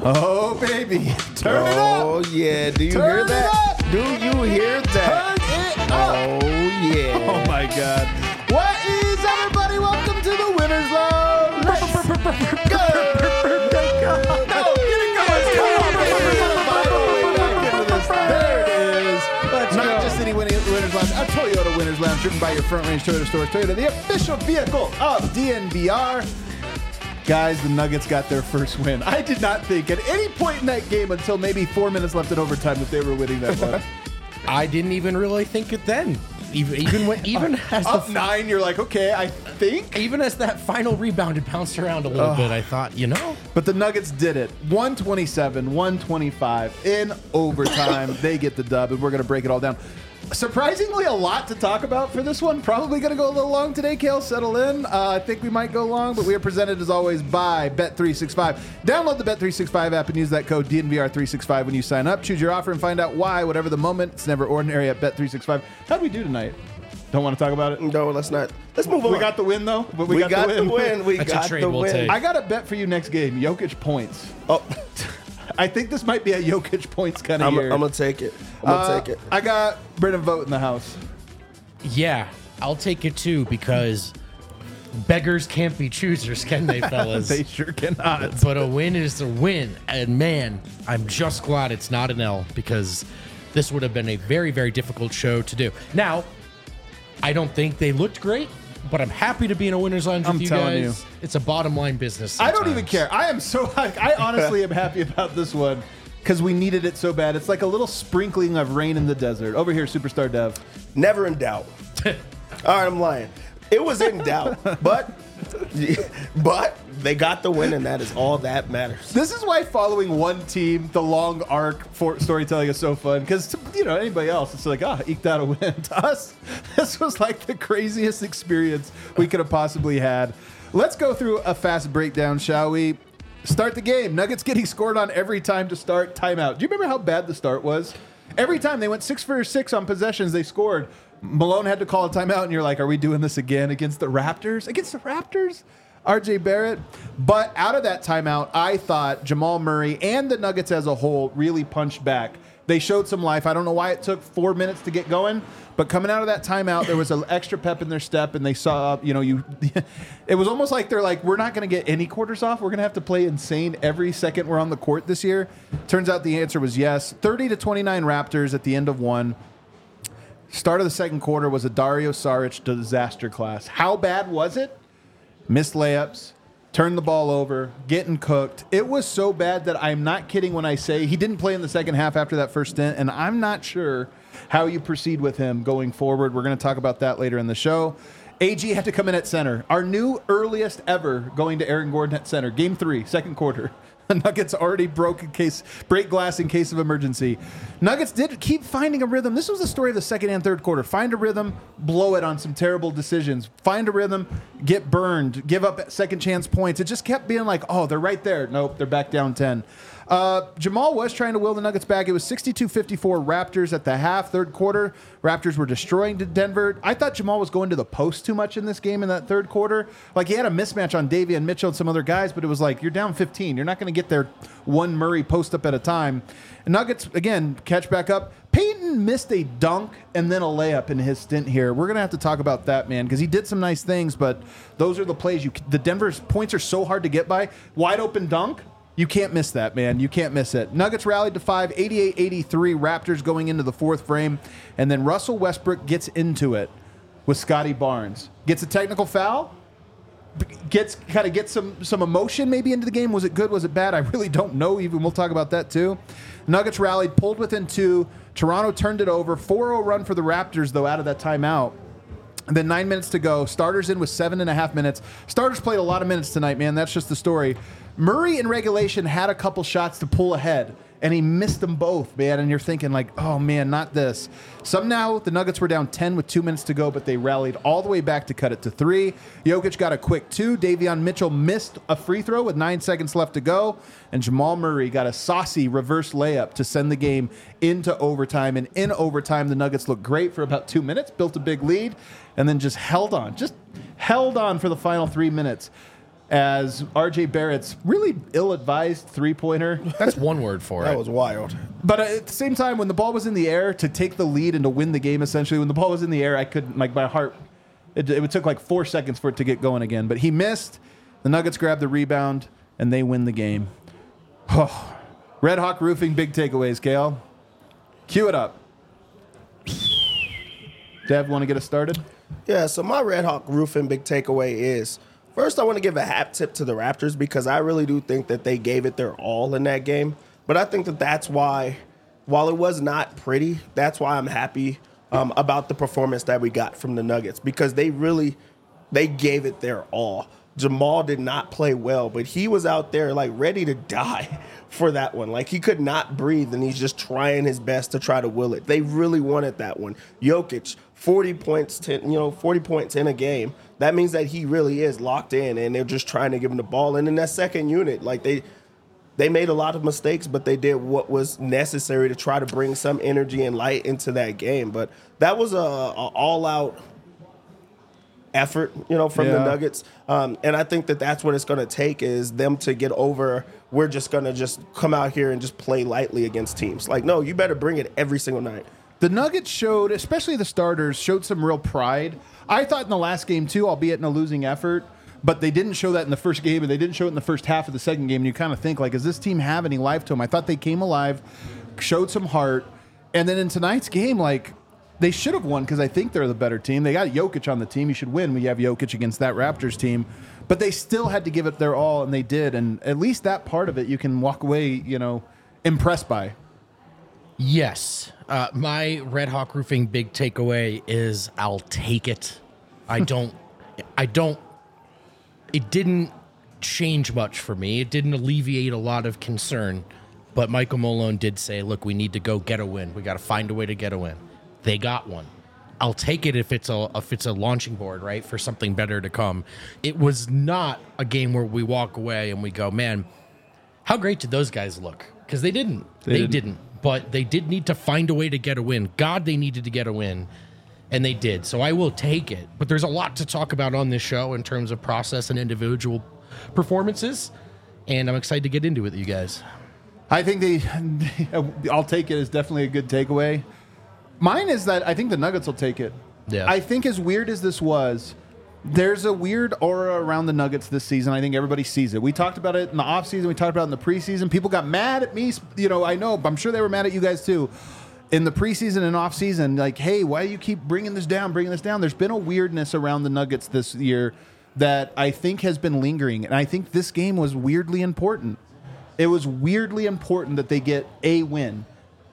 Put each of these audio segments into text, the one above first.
Oh, baby. Turn it up. Oh, yeah. Do you Turn hear that? it up. Do you hear that? Turn it up. Oh, yeah. Oh, my God. What is everybody? Welcome to the Winners Lounge. Let's go. No, get it going. There it is. Not just any Winners Lounge, a Toyota Winners Lounge driven by your Front Range Toyota stores. Toyota, the official vehicle of DNVR. Guys, the Nuggets got their first win. I did not think at any point in that game until maybe 4 minutes left in overtime that they were winning that one. I didn't even really think it then. Even as Up 9, you're like, okay, I think. even as that final rebound had bounced around a little bit, I thought, But the Nuggets did it. 127, 125 in overtime. They get the dub, and we're going to break it all down. Surprisingly, a lot to talk about for this one. Probably going to go a little long today, Kale. Settle in. I think we might go long, but we are presented, as always, by Bet365. Download the Bet365 app and use that code DNVR365 when you sign up. Choose your offer and find out why. Whatever the moment, it's never ordinary at Bet365. How'd we do tonight? Don't want to talk about it? No, let's not. Let's move on. We got the win, though. But We got the win. We That's a got trade the we'll win. take. I got a bet for you next game. Jokic points. Oh, I think this might be a Jokic points kind of I'm year. going to take it. I'm going to take it. I got Brendan Vogt in the house. yeah, I'll take it too because beggars can't be choosers, can they, fellas? They sure cannot. But a win is a win. And man, I'm just glad it's not an L because this would have been a very, very difficult show to do. Now, I don't think they looked great, but I'm happy to be in a winner's lounge I'm with you telling guys. you. It's a bottom line business. I don't even sometimes. care. I am so I honestly am happy about this one because we needed it so bad. It's like a little sprinkling of rain in the desert. Over here, Superstar Dev. Never in doubt. All right, I'm lying. It was in doubt, but they got the win, and that is all that matters. This is why following one team, the long arc for storytelling is so fun. Because anybody else, it's like, eked out a win. To us, this was like the craziest experience we could have possibly had. Let's go through a fast breakdown, shall we? Start the game. Nuggets getting scored on every time to start. Timeout. Do you remember how bad the start was? Every time they went 6 for 6 on possessions, they scored. Malone had to call a timeout, and you're like, are we doing this again against the Raptors? Against the Raptors? RJ Barrett. But out of that timeout, I thought Jamal Murray and the Nuggets as a whole really punched back. They showed some life. I don't know why it took 4 minutes to get going, but coming out of that timeout, there was an extra pep in their step, and they saw, it was almost like they're like, we're not going to get any quarters off. We're going to have to play insane every second we're on the court this year. Turns out the answer was yes. 30-29 Raptors at the end of one. Start of the second quarter was a Dario Saric disaster class. How bad was it? Missed layups, turned the ball over, getting cooked. It was so bad that I'm not kidding when I say he didn't play in the second half after that first stint, and I'm not sure how you proceed with him going forward. We're going to talk about that later in the show. AG had to come in at center. Our new earliest ever going to Aaron Gordon at center. Game 3, second quarter. The Nuggets already break glass in case of emergency. Nuggets did keep finding a rhythm. This was the story of the second and third quarter. Find a rhythm, blow it on some terrible decisions. Find a rhythm, get burned, give up second chance points. It just kept being like, oh, they're right there. Nope, they're back down 10. Jamal was trying to will the Nuggets back. It was 62-54 Raptors at the half. Third quarter, Raptors were destroying Denver. I thought Jamal was going to the post too much in this game in that third quarter. Like, he had a mismatch on Davion Mitchell and some other guys, but it was like, you're down 15. You're not going to get there one Murray post up at a time. And Nuggets, again, catch back up. Peyton missed a dunk and then a layup in his stint here. We're going to have to talk about that, man, because he did some nice things, but those are the plays. The Denver's points are so hard to get by. Wide open dunk. You can't miss that, man. You can't miss it. Nuggets rallied to 5, 88-83. Raptors going into the fourth frame. And then Russell Westbrook gets into it with Scotty Barnes. Gets a technical foul. Gets some emotion maybe into the game. Was it good? Was it bad? I really don't know even. We'll talk about that too. Nuggets rallied, pulled within 2. Toronto turned it over. 4-0 run for the Raptors, though, out of that timeout. And then 9 minutes to go. Starters in with 7.5 minutes. Starters played a lot of minutes tonight, man. That's just the story. Murray in regulation had a couple shots to pull ahead, and he missed them both, man. And you're thinking like, oh, man, not this. Somehow the Nuggets were down 10 with 2 minutes to go, but they rallied all the way back to cut it to 3. Jokic got a quick 2. Davion Mitchell missed a free throw with 9 seconds left to go. And Jamal Murray got a saucy reverse layup to send the game into overtime. And in overtime, the Nuggets looked great for about 2 minutes, built a big lead, and then just held on for the final 3 minutes. as RJ Barrett's really ill-advised three-pointer. That's one word for That it. was wild. But at the same time, when the ball was in the air to take the lead and to win the game, essentially, when the ball was in the air, I couldn't, like, my heart, it took like 4 seconds for it to get going again. But he missed. The Nuggets grabbed the rebound, and they win the game. Oh, Red Hawk Roofing, big takeaways, Kale. Cue it up. Dev, want to get us started? Yeah, so my Red Hawk Roofing big takeaway is, first I want to give a hat tip to the Raptors because I really do think that they gave it their all in that game. But I think that that's why, while it was not pretty, that's why I'm happy about the performance that we got from the Nuggets because they gave it their all. Jamal did not play well, but he was out there like ready to die for that one. Like he could not breathe, and he's just trying his best to try to will it. They really wanted that one. Jokic, 40 points in a game. That means that he really is locked in, and they're just trying to give him the ball. And in that second unit, like they made a lot of mistakes, but they did what was necessary to try to bring some energy and light into that game. But that was a all-out effort, from the Nuggets. And I think that that's what it's going to take is them to get over, we're just going to just come out here and just play lightly against teams. Like, no, you better bring it every single night. The Nuggets showed, especially the starters, showed some real pride. I thought in the last game, too, albeit in a losing effort, but they didn't show that in the first game, and they didn't show it in the first half of the second game. And you kind of think, like, does this team have any life to them? I thought they came alive, showed some heart. And then in tonight's game, like, they should have won because I think they're the better team. They got Jokic on the team. You should win when you have Jokic against that Raptors team. But they still had to give it their all, and they did. And at least that part of it you can walk away, impressed by. Yes. My Red Hawk Roofing big takeaway is I'll take it. It didn't change much for me. It didn't alleviate a lot of concern. But Michael Malone did say, look, we need to go get a win. We got to find a way to get a win. They got one. I'll take it if it's a launching board, right, for something better to come. It was not a game where we walk away and we go, man, how great did those guys look? Because they didn't. They didn't. But they did need to find a way to get a win. God, they needed to get a win, and they did. So I will take it. But there's a lot to talk about on this show in terms of process and individual performances, and I'm excited to get into it with you guys. I think I'll take it as definitely a good takeaway. Mine is that I think the Nuggets will take it. Yeah. I think as weird as this was, there's a weird aura around the Nuggets this season. I think everybody sees it. We talked about it in the offseason. We talked about it in the preseason. People got mad at me. I know. I'm sure they were mad at you guys too. In the preseason and offseason, like, hey, why do you keep bringing this down? There's been a weirdness around the Nuggets this year that I think has been lingering. And I think this game was weirdly important. It was weirdly important that they get a win.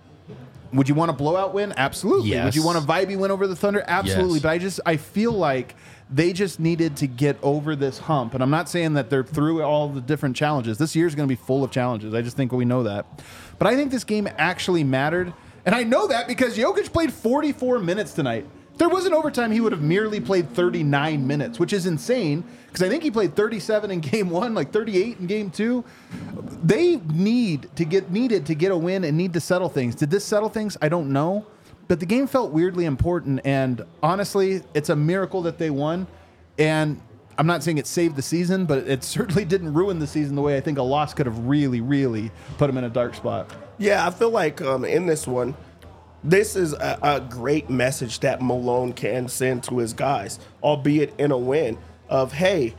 Would you want a blowout win? Absolutely. Yes. Would you want a vibey win over the Thunder? Absolutely. Yes. But I feel like they just needed to get over this hump. And I'm not saying that they're through all the different challenges. This year is going to be full of challenges. I just think we know that. But I think this game actually mattered. And I know that because Jokic played 44 minutes tonight. If there wasn't overtime, he would have merely played 39 minutes, which is insane because I think he played 37 in game one, like 38 in game two. They needed to get a win and need to settle things. Did this settle things? I don't know. But the game felt weirdly important, and honestly, it's a miracle that they won. And I'm not saying it saved the season, but it certainly didn't ruin the season the way I think a loss could have really, really put them in a dark spot. Yeah, I feel like in this one, this is a great message that Malone can send to his guys, albeit in a win, of, hey,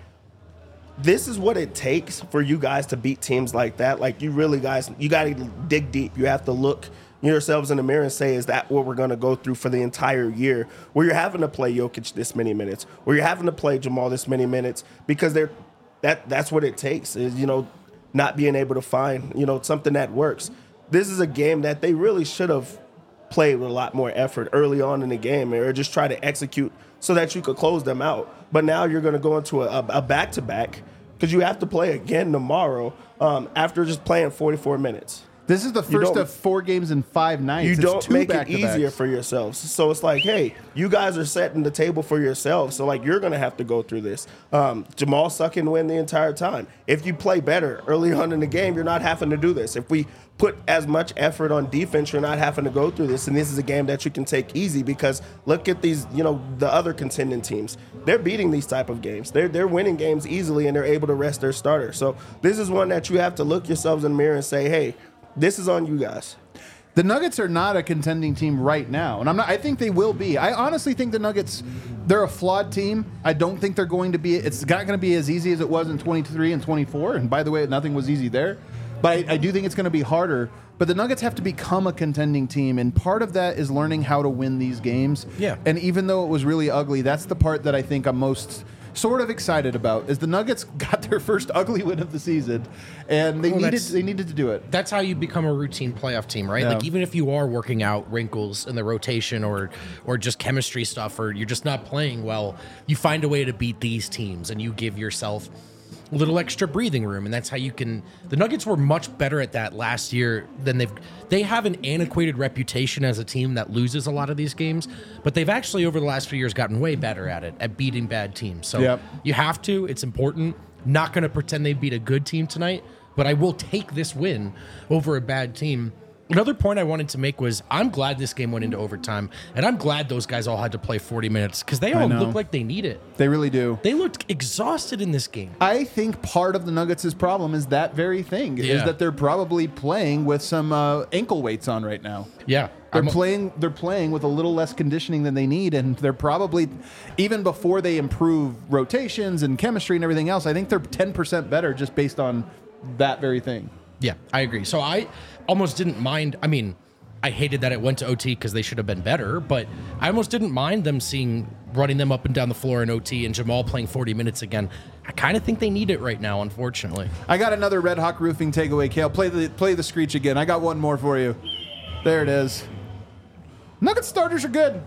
this is what it takes for you guys to beat teams like that. Like, you got to dig deep. You have to look yourselves in the mirror and say, is that what we're going to go through for the entire year, where you're having to play Jokic this many minutes, where you're having to play Jamal this many minutes, because that's what it takes is, not being able to find, something that works. This is a game that they really should have played with a lot more effort early on in the game, or just try to execute so that you could close them out. But now you're going to go into a back-to-back because you have to play again tomorrow after just playing 44 minutes. This is the first of 4 games in 5 nights. You It's don't 2 make it back-to-backs. easier for yourselves. So it's like, hey, you guys are setting the table for yourselves. So, like, you're going to have to go through this. Jamal sucking win the entire time. If you play better early on in the game, you're not having to do this. If we put as much effort on defense, you're not having to go through this. And this is a game that you can take easy because look at these, the other contending teams. They're beating these type of games. They're winning games easily, and they're able to rest their starter. So this is one that you have to look yourselves in the mirror and say, hey, this is on you guys. The Nuggets are not a contending team right now, and I think they will be. I honestly think the Nuggets, they're a flawed team. I don't think they're going to be. It's not going to be as easy as it was in 23 and 24. And by the way, nothing was easy there. But I do think it's going to be harder. But the Nuggets have to become a contending team, and part of that is learning how to win these games. Yeah. And even though it was really ugly, that's the part that I think I'm most sort of excited about. Is the Nuggets got their first ugly win of the season, and they needed to do it. That's how you become a routine playoff team, right? Yeah. Like even if you are working out wrinkles in the rotation or just chemistry stuff, or you're just not playing well, you find a way to beat these teams, and you give yourself a little extra breathing room, and that's how you can. The Nuggets were much better at that last year than they have an antiquated reputation as a team that loses a lot of these games, but they've actually over the last few years gotten way better at it, at beating bad teams. So Yep. you have to. It's important. Not going to pretend they beat a good team tonight, but I will take this win over a bad team. Another point I wanted to make was I'm glad this game went into overtime, and I'm glad those guys all had to play 40 minutes because they all know. look like they need it. They really do. They looked exhausted in this game. I think part of the Nuggets' problem is that very thing, is Yeah. that they're probably playing with some ankle weights on right now. Yeah. They're playing with a little less conditioning than they need, and they're probably, even before they improve rotations and chemistry and everything else, I think they're 10% better just based on that very thing. Yeah, I agree. So I almost didn't mind. I mean, I hated that it went to OT because they should have been better, but I almost didn't mind them running them up and down the floor in OT and Jamal playing 40 minutes again. I kind of think they need it right now, unfortunately. I got another Red Hawk Roofing takeaway, Kale. Play the screech again. I got one more for you. There it is. Nuggets starters are good.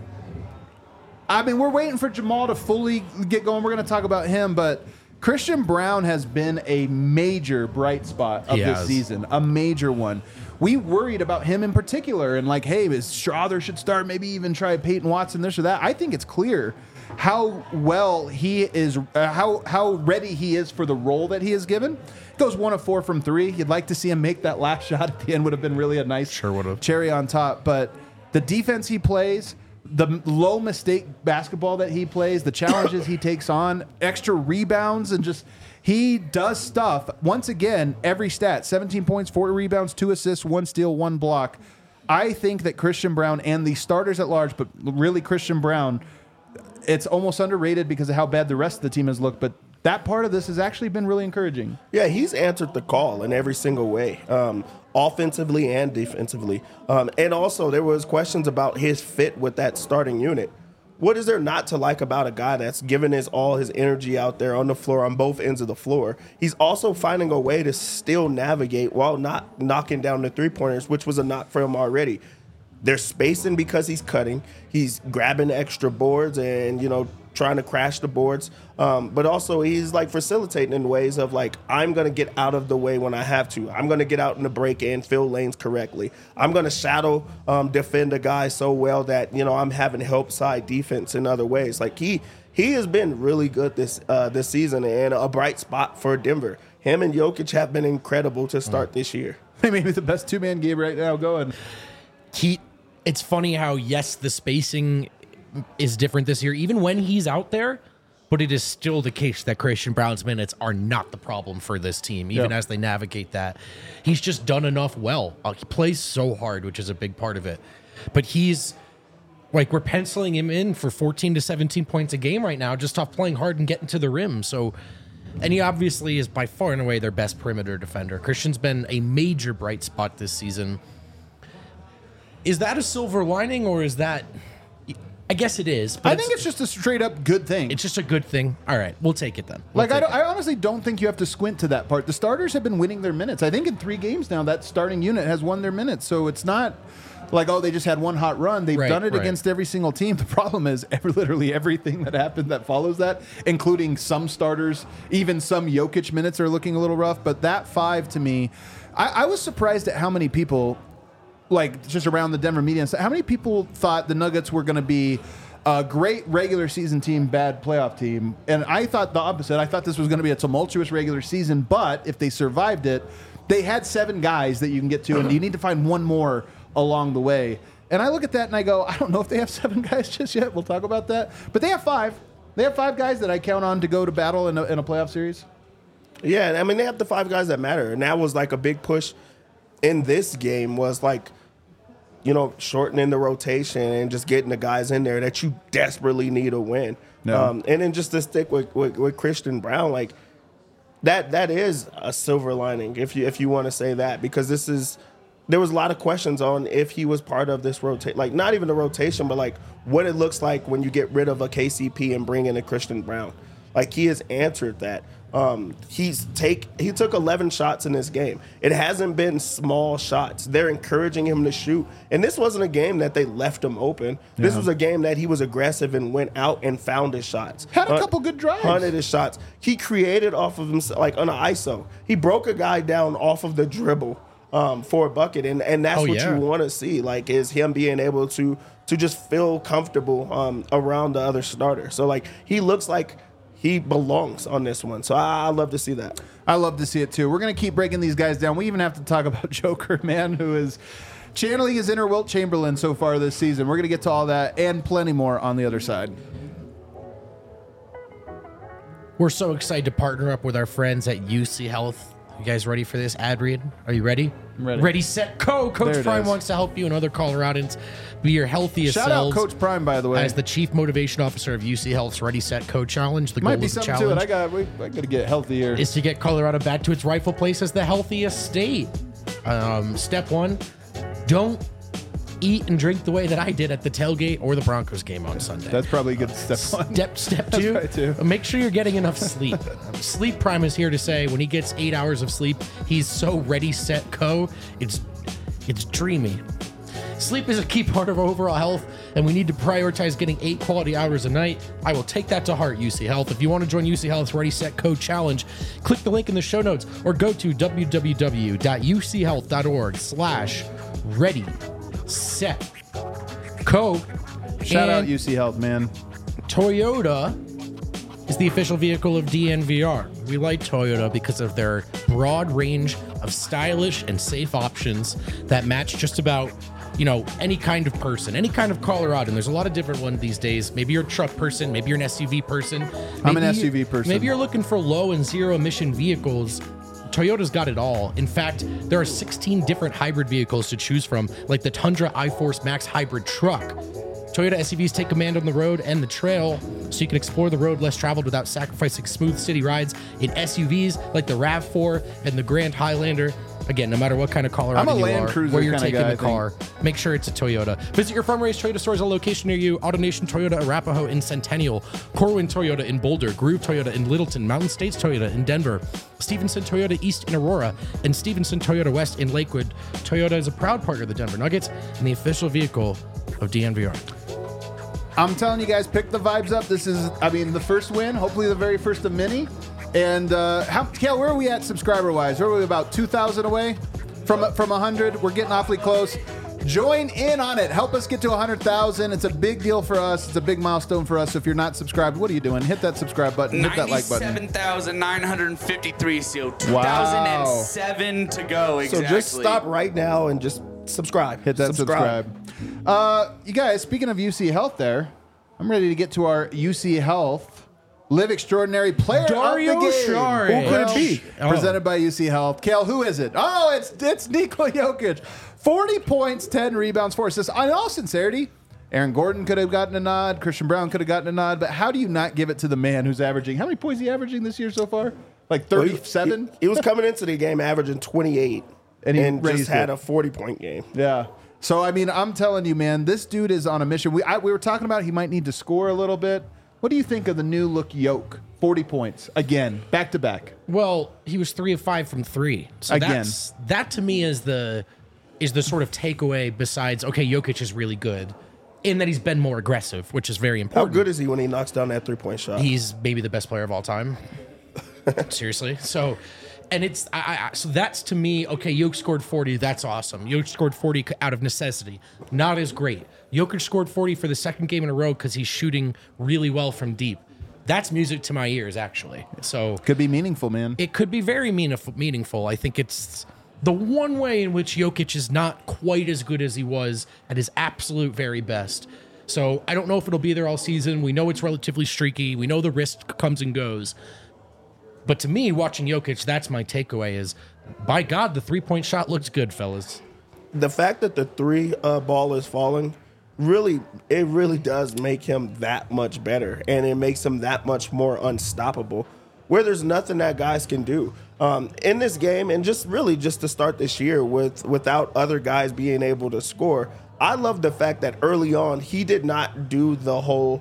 I mean, we're waiting for Jamal to fully get going. We're going to talk about him, but Christian Brown has been a major bright spot of this season, a major one. We worried about him in particular, and like, hey, Strother should start, maybe even try Peyton Watson, this or that. I think it's clear how well he is, how ready he is for the role that he is given. Goes 1 of 4 from 3. You'd like to see him make that last shot at the end. Would have been really a nice cherry on top. But the defense he plays, the low mistake basketball that he plays, the challenges he takes on, extra rebounds, and just he does stuff. Once again, every stat, 17 points, 4 rebounds, 2 assists, 1 steal, 1 block. I think that Christian Brown and the starters at large, but really Christian Brown, it's almost underrated because of how bad the rest of the team has looked, but that part of this has actually been really encouraging. Yeah, he's answered the call in every single way, offensively and defensively. And also, there was questions about his fit with that starting unit. What is there not to like about a guy that's giving all his energy out there on the floor, on both ends of the floor? He's also finding a way to still navigate while not knocking down the three-pointers, which was a knock for him already. There's spacing because he's cutting. He's grabbing extra boards and, trying to crash the boards. But also he's like facilitating in ways of like, I'm going to get out of the way when I have to. I'm going to get out in the break and fill lanes correctly. I'm going to shadow defend a guy so well that, I'm having help side defense in other ways. Like he has been really good this season and a bright spot for Denver. Him and Jokic have been incredible to start this year. Maybe the best two-man game right now going. It's funny how, yes, the spacing is different this year, even when he's out there, but it is still the case that Christian Brown's minutes are not the problem for this team, even as they navigate that. He's just done enough well. He plays so hard, which is a big part of it. But he's, like, we're penciling him in for 14 to 17 points a game right now, just off playing hard and getting to the rim. So, and he obviously is by far and away their best perimeter defender. Christian's been a major bright spot this season. Is that a silver lining, or is that... I guess it is. But I think it's just a straight up good thing. It's just a good thing. All right, we'll take it then. I honestly don't think you have to squint to that part. The starters have been winning their minutes. I think in 3 games now, that starting unit has won their minutes. So it's not like, oh, they just had one hot run. They've done it against every single team. The problem is literally everything that happened that follows that, including some starters, even some Jokic minutes are looking a little rough. But that 5 to me, I was surprised at how many people, like just around the Denver media, how many people thought the Nuggets were going to be a great regular season team, bad playoff team. And I thought the opposite. I thought this was going to be a tumultuous regular season, but if they survived it, they had 7 guys that you can get to, and you need to find one more along the way. And I look at that and I go, I don't know if they have 7 guys just yet. We'll talk about that. But they have 5. They have 5 guys that I count on to go to battle in a playoff series. Yeah, I mean, they have the 5 guys that matter. And that was like a big push in this game was like, shortening the rotation and just getting the guys in there that you desperately need to win. No. And then just to stick with Christian Braun, like that is a silver lining if you want to say that, because there was a lot of questions on if he was part of this rotation, like not even the rotation, but like what it looks like when you get rid of a KCP and bring in a Christian Braun. Like he has answered that. He took 11 shots in this game. It hasn't been small shots. They're encouraging him to shoot. And this wasn't a game that they left him open. This was a game that he was aggressive and went out and found his shots. Had a couple good drives. Hunted his shots. He created off of himself, like on an ISO. He broke a guy down off of the dribble for a bucket. And that's what you want to see, like, is him being able to just feel comfortable around the other starter. So, like, he looks like he belongs on this one. So I love to see that. I love to see it too. We're going to keep breaking these guys down. We even have to talk about Joker, man, who is channeling his inner Wilt Chamberlain so far this season. We're going to get to all that and plenty more on the other side. We're so excited to partner up with our friends at UC Health. You guys ready for this ad read? Are you ready? I'm ready. Ready, set, go. Coach Prime wants to help you and other Coloradans be your healthiest selves. Shout out Coach Prime, by the way. As the Chief Motivation Officer of UC Health's Ready, Set, Go Challenge. The Might goal be of the something challenge to it. I got to get healthier. Is to get Colorado back to its rightful place as the healthiest state. Step 1, don't eat and drink the way that I did at the tailgate or the Broncos game on Sunday. That's probably a good step 1. Step 2, make sure you're getting enough sleep. Sleep Prime is here to say when he gets 8 hours of sleep, he's so ready, set, go. It's dreamy. Sleep is a key part of our overall health, and we need to prioritize getting 8 quality hours a night. I will take that to heart, UC Health. If you want to join UC Health's Ready, Set, Go Challenge, click the link in the show notes or go to www.uchealth.org/ready, set, go. Shout out UC Health, man. Toyota is the official vehicle of DNVR. We like Toyota because of their broad range of stylish and safe options that match just about, any kind of person, any kind of Coloradan. There's a lot of different ones these days. Maybe you're a truck person. Maybe you're an SUV person. I'm an SUV person. Maybe you're looking for low and zero emission vehicles. Toyota's got it all. In fact, there are 16 different hybrid vehicles to choose from, like the Tundra iForce Max hybrid truck. Toyota SUVs take command on the road and the trail, so you can explore the road less traveled without sacrificing smooth city rides in SUVs like the RAV4 and the Grand Highlander. Again, no matter what kind of Colorado you are, where you're taking the car, make sure it's a Toyota. Visit your farm-raised Toyota stores on location near you. AutoNation Toyota Arapahoe in Centennial, Corwin Toyota in Boulder, Groove Toyota in Littleton, Mountain States Toyota in Denver, Stevenson Toyota East in Aurora, and Stevenson Toyota West in Lakewood. Toyota is a proud partner of the Denver Nuggets and the official vehicle of DNVR. I'm telling you guys, pick the vibes up. This is, the first win, hopefully the very first of many. And Kale, where are we at subscriber-wise? Where are we, about 2,000 away from 100? We're getting awfully close. Join in on it. Help us get to 100,000. It's a big deal for us. It's a big milestone for us. So if you're not subscribed, what are you doing? Hit that subscribe button. Hit that like button. 97,953. So 2,007 to go. Exactly. So just stop right now and just subscribe. Hit that subscribe. You guys, speaking of UC Health there, I'm ready to get to our UC Health Live Extraordinary Player Dario of the Game. Saric. Who could it be? Presented by UC Health. Kale, who is it? Oh, it's Nikola Jokic. 40 points, 10 rebounds, 4 assists. In all sincerity, Aaron Gordon could have gotten a nod. Christian Braun could have gotten a nod. But how do you not give it to the man who's averaging? How many points is he averaging this year so far? Like 37? He was coming into the game averaging 28 and just had a 40-point game. Yeah. So, I'm telling you, man, this dude is on a mission. We were talking about he might need to score a little bit. What do you think of the new look Yoke? 40 points. Again, back to back. Well, he was 3 of 5 from 3. So again, that to me is the is the sort of takeaway besides, okay, Jokic is really good in that he's been more aggressive, which is very How important. good is he when he knocks down that 3-point shot? He's maybe the best player of all time. Seriously. So, and it's, so that's to me, okay, Jokic scored 40. That's awesome. Jokic scored 40 out of necessity. Not as great. Jokic scored 40 for the second game in a row because he's shooting really well from deep. That's music to my ears, actually. So Could be meaningful, man. it could be very meaningful. I think it's the one way in which Jokic is not quite as good as he was at his absolute very best. So I don't know if it'll be there all season. We know it's relatively streaky. We know the risk comes and goes. But to me, watching Jokic, that's my takeaway is, by God, the 3-point shot looks good, fellas. The fact that the three ball is falling, it really does make him that much better, and it makes him that much more unstoppable, where there's nothing that guys can do in this game. And just to start this year without other guys being able to score, I love the fact that early on he did not do the whole,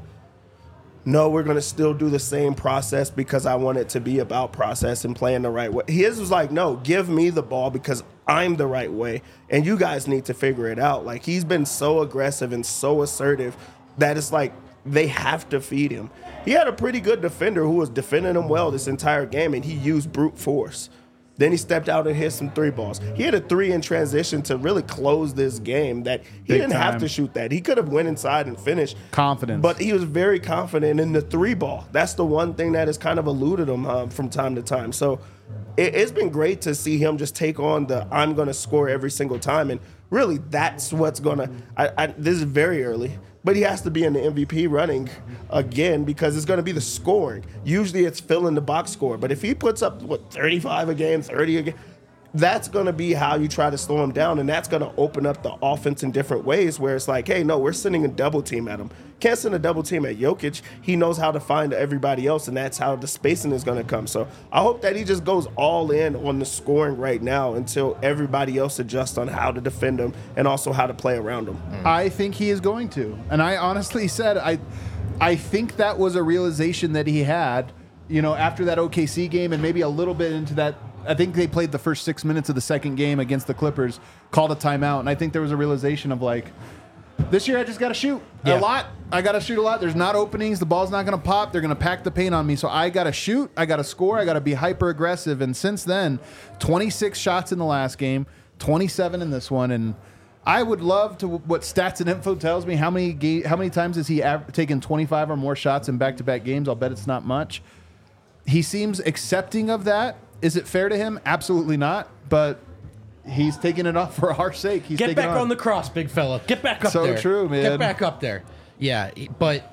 no, we're going to still do the same process because I want it to be about process and playing the right way. His was like, no, give me the ball because I'm the right way, and you guys need to figure it out. Like, he's been so aggressive and so assertive that it's like they have to feed him. He had a pretty good defender who was defending him well this entire game, and he used brute force. Then he stepped out and hit some 3 balls. He had a 3 in transition to really close this game that he didn't have to shoot that. He could have went inside and finished. Confidence. But he was very confident in the 3 ball. That's the one thing that has kind of eluded him from time to time. So it's been great to see him just take on the I'm going to score every single time. And really, that's what's going to – this is very early. But he has to be in the MVP running again because it's going to be the scoring. Usually it's filling the box score. But if he puts up, 35 a game, 30 a game, that's going to be how you try to slow him down. And that's going to open up the offense in different ways where it's like, hey, no, we're sending a double team at him. Can't send a double team at Jokic. He knows how to find everybody else, and that's how the spacing is going to come. So I hope that he just goes all in on the scoring right now until everybody else adjusts on how to defend him and also how to play around him. I think he is going to. And I honestly said, I think that was a realization that he had, after that OKC game and maybe a little bit into that. I think they played the first 6 minutes of the second game against the Clippers, called a timeout. And I think there was a realization of like, this year I just got to shoot a lot. I got to shoot a lot. There's not openings. The ball's not going to pop. They're going to pack the paint on me. So I got to shoot. I got to score. I got to be hyper aggressive. And since then, 26 shots in the last game, 27 in this one. And I would love to, what Stats and Info tells me, how many times has he taken 25 or more shots in back-to-back games? I'll bet it's not much. He seems accepting of that. Is it fair to him? Absolutely not. But he's taking it off for our sake. He's Get back on the cross, big fella. Get back up So there. true, man. Get back up there. Yeah, but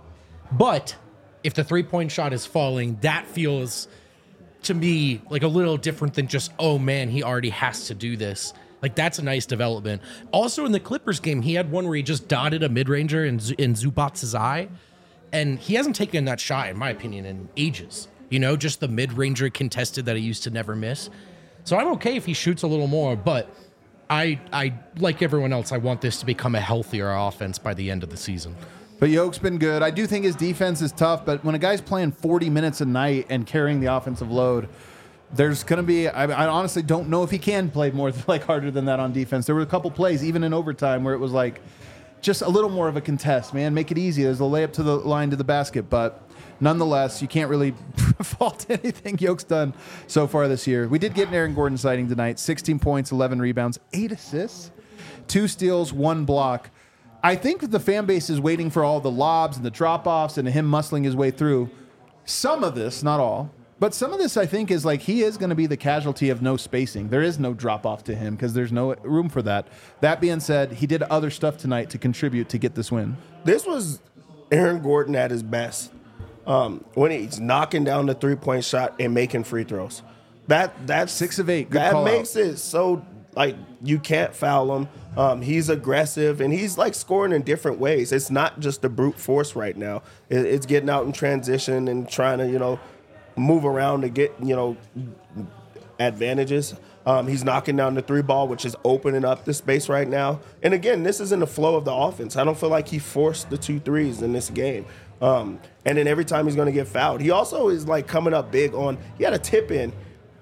if the 3-point shot is falling, that feels to me like a little different than just, oh man, he already has to do this. Like, that's a nice development. Also in the Clippers game, he had one where he just dotted a mid-ranger in Zubac's eye, and he hasn't taken that shot, in my opinion, in ages. Just the mid-ranger contested that he used to never miss. So I'm okay if he shoots a little more, but I like everyone else, I want this to become a healthier offense by the end of the season. But Yoke's been good. I do think his defense is tough, but when a guy's playing 40 minutes a night and carrying the offensive load, there's going to be, I honestly don't know if he can play more harder than that on defense. There were a couple plays, even in overtime, where it was like just a little more of a contest, man. Make it easy. There's a layup to the line to the basket, but nonetheless, you can't really fault anything Yoke's done so far this year. We did get an Aaron Gordon sighting tonight. 16 points, 11 rebounds, 8 assists, 2 steals, 1 block. I think that the fan base is waiting for all the lobs and the drop-offs and him muscling his way through. Some of this, not all, but some of this I think is like he is going to be the casualty of no spacing. There is no drop-off to him because there's no room for that. That being said, he did other stuff tonight to contribute to get this win. This was Aaron Gordon at his best. When he's knocking down the 3-point shot and making free throws. That's 6 of 8. Good that call makes out. it so like you can't foul him. He's aggressive and he's like scoring in different ways. It's not just the brute force right now. It's getting out in transition and trying to, move around to get, advantages. He's knocking down the 3 ball, which is opening up the space right now. And again, this is in the flow of the offense. I don't feel like he forced the 2 threes in this game. And then every time he's going to get fouled. He also is like coming up big on, he had a tip in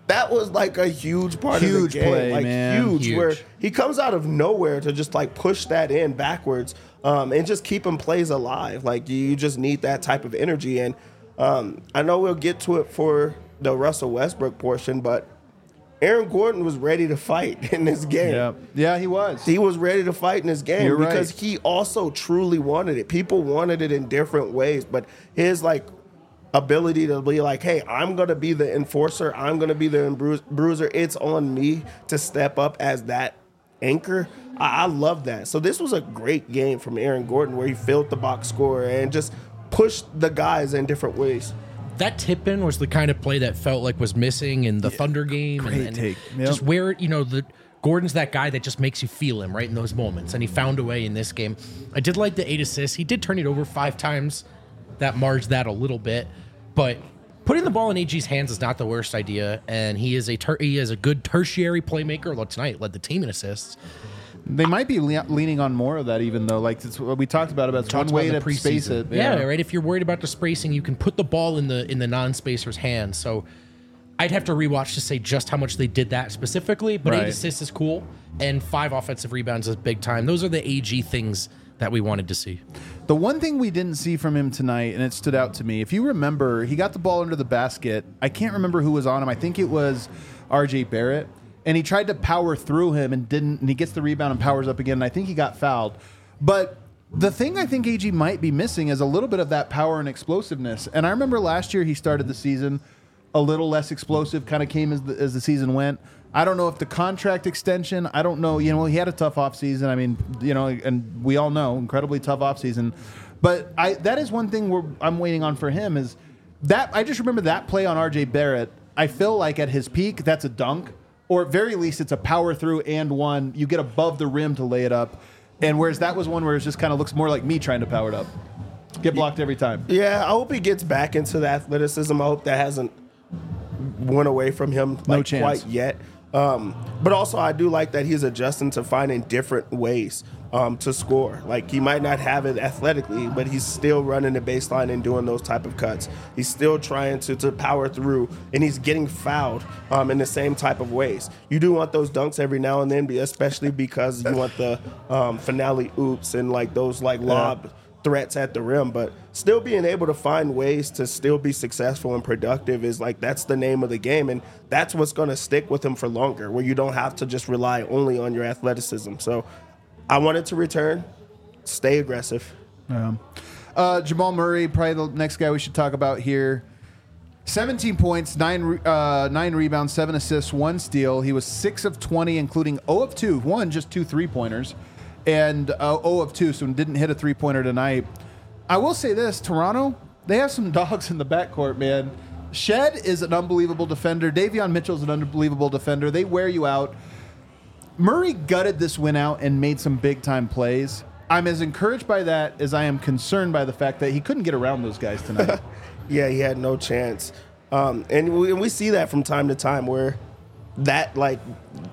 that was like a huge part of the Huge game. play, like man. huge, where he comes out of nowhere to just like push that in backwards and just keeping plays alive. Like you just need that type of energy. And I know we'll get to it for the Russell Westbrook portion, but Aaron Gordon was ready to fight in this game. Yeah, he was. He was ready to fight in this game You're because right. he also truly wanted it. People wanted it in different ways, but his like ability to be like, hey, I'm going to be the enforcer. I'm going to be the bruiser. It's on me to step up as that anchor. I love that. So this was a great game from Aaron Gordon where he filled the box score and just pushed the guys in different ways. That tip-in was the kind of play that felt like was missing in the Thunder game. Great and take. Yep. Just where, Gordon's that guy that just makes you feel him right in those moments, and he found a way in this game. I did like the 8 assists. He did turn it over 5 times. That marged that a little bit. But putting the ball in AG's hands is not the worst idea, and he is a good tertiary playmaker. Although tonight led the team in assists. They might be leaning on more of that, even though, like it's what we talked about it's one way to space it. Yeah, right. If you're worried about the spacing, you can put the ball in the non-spacer's hands. So I'd have to rewatch to say just how much they did that specifically. But 8 assists is cool, and 5 offensive rebounds is big time. Those are the AG things that we wanted to see. The one thing we didn't see from him tonight, and it stood out to me, if you remember, he got the ball under the basket. I can't remember who was on him. I think it was RJ Barrett. And he tried to power through him and didn't, and he gets the rebound and powers up again, and I think he got fouled. But the thing I think AG might be missing is a little bit of that power and explosiveness. And I remember last year he started the season a little less explosive, kind of came as the season went. I don't know if the contract extension, I don't know, he had a tough offseason. I mean, and we all know, incredibly tough offseason. But that is one thing I'm waiting on for him is that, I just remember that play on RJ Barrett. I feel like at his peak, that's a dunk. Or at very least, it's a power through and one. You get above the rim to lay it up. And whereas that was one where it just kind of looks more like me trying to power it up. Get blocked every time. Yeah, I hope he gets back into the athleticism. I hope that hasn't went away from him No chance. quite yet. But also, I do like that he's adjusting to finding different ways to score. Like, he might not have it athletically, but he's still running the baseline and doing those type of cuts. He's still trying to power through, and he's getting fouled in the same type of ways. You do want those dunks every now and then, especially because you want the finale oops and like those like lob threats at the rim, but still being able to find ways to still be successful and productive is like, that's the name of the game, and that's what's going to stick with him for longer, where you don't have to just rely only on your athleticism. So I wanted to return, stay aggressive. Jamal Murray, probably the next guy we should talk about here. 17 points, 9 rebounds, 7 assists, 1 steal. He was 6 of 20, including 0 of 2. One, just 2 3-pointers. And 0 of 2, so didn't hit a 3-pointer tonight. I will say this, Toronto, they have some dogs in the backcourt, man. Shed is an unbelievable defender. Davion Mitchell's an unbelievable defender. They wear you out. Murray gutted this win out and made some big-time plays. I'm as encouraged by that as I am concerned by the fact that he couldn't get around those guys tonight. Yeah, he had no chance. And we see that from time to time where that, like,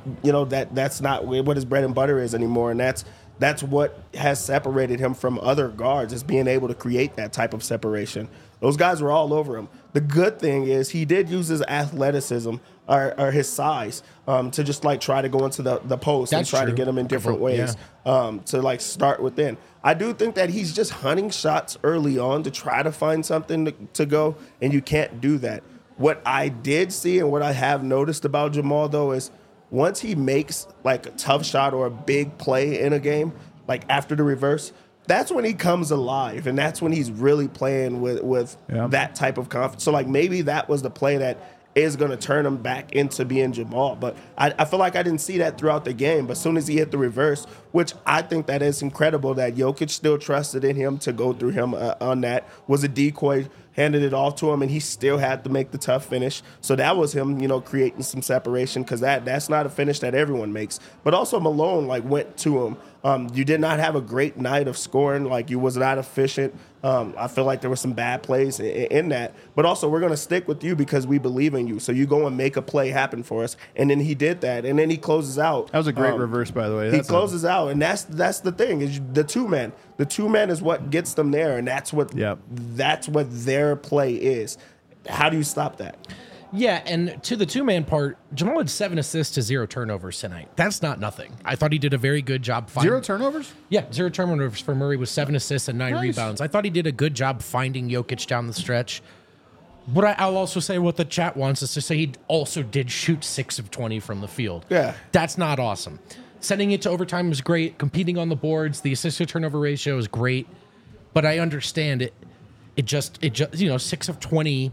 that's not what his bread and butter is anymore. And that's what has separated him from other guards, is being able to create that type of separation. Those guys were all over him. The good thing is he did use his athleticism or his size to just like try to go into the post and try to get him in different ways to like start within. I do think that he's just hunting shots early on to try to find something to go, and you can't do that. What I did see and what I have noticed about Jamal, though, is once he makes like a tough shot or a big play in a game, like after the reverse, that's when he comes alive, and that's when he's really playing with that type of confidence. So, like, maybe that was the play that is going to turn him back into being Jamal. But I feel like I didn't see that throughout the game. But as soon as he hit the reverse, which I think that is incredible that Jokic still trusted in him to go through him on that, was a decoy, handed it off to him, and he still had to make the tough finish. So that was him, creating some separation, because that's not a finish that everyone makes. But also Malone, like, went to him. You did not have a great night of scoring. Like, you was not efficient. I feel like there were some bad plays in that. But also, we're going to stick with you because we believe in you. So you go and make a play happen for us. And then he did that. And then he closes out. That was a great reverse, by the way. He closes out. And that's the thing, is the two-man. The two-man is what gets them there. And that's what their play is. How do you stop that? Yeah, and to the two-man part, Jamal had 7 assists to 0 turnovers tonight. That's not nothing. I thought he did a very good job finding... 0 turnovers? Yeah, 0 turnovers for Murray with 7 assists and 9 Nice. rebounds. I thought he did a good job finding Jokic down the stretch. But I'll also say what the chat wants us to say. He also did shoot 6 of 20 from the field. Yeah. That's not awesome. Sending it to overtime was great. Competing on the boards, the assist-to-turnover ratio is great. But I understand it. It just 6 of 20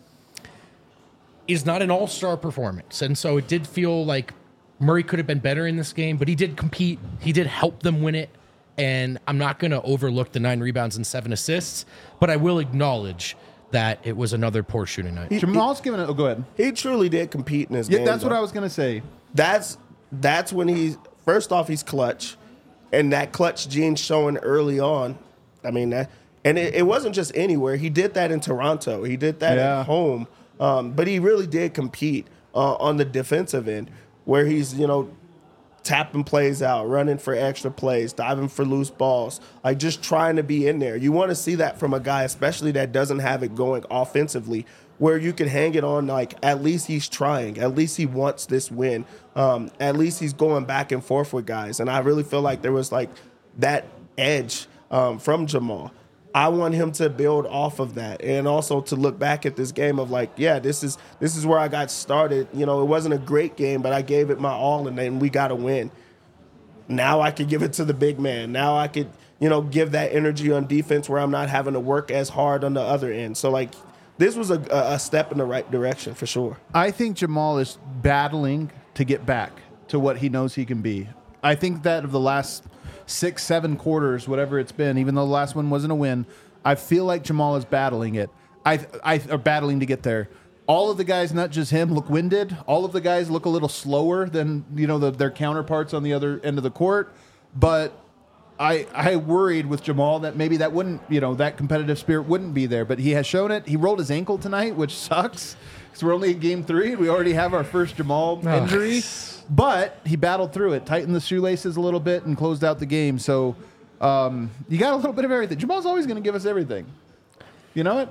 is not an all-star performance. And so it did feel like Murray could have been better in this game, but he did compete. He did help them win it. And I'm not going to overlook the 9 rebounds and 7 assists, but I will acknowledge that it was another poor shooting night. Jamal's giving it. Oh, go ahead. He truly did compete in this Yeah, game. that's what though. I was going to say. That's when he's first off he's clutch, and that clutch gene showing early on. I mean that, and it wasn't just anywhere. He did that in Toronto. He did that Yeah. at home. But he really did compete on the defensive end, where he's tapping plays out, running for extra plays, diving for loose balls, like just trying to be in there. You want to see that from a guy, especially that doesn't have it going offensively, where you can hang it on like at least he's trying, at least he wants this win, at least he's going back and forth with guys. And I really feel like there was like that edge from Jamal. I want him to build off of that, and also to look back at this game of like, yeah, this is where I got started. It wasn't a great game, but I gave it my all, and then we got a win. Now I could give it to the big man. Now I could, give that energy on defense where I'm not having to work as hard on the other end. So like, this was a step in the right direction for sure. I think Jamal is battling to get back to what he knows he can be. I think that of the last 6-7 quarters, whatever it's been, even though the last one wasn't a win, I feel like Jamal is battling it. I are battling to get there. All of the guys, not just him, look winded. All of the guys look a little slower than their counterparts on the other end of the court. But I worried with Jamal that maybe that wouldn't, that competitive spirit wouldn't be there. But he has shown it. He rolled his ankle tonight, which sucks because we're only in game 3 and we already have our first Jamal injury. But he battled through it, tightened the shoelaces a little bit, and closed out the game. So you got a little bit of everything. Jamal's always going to give us everything. You know it?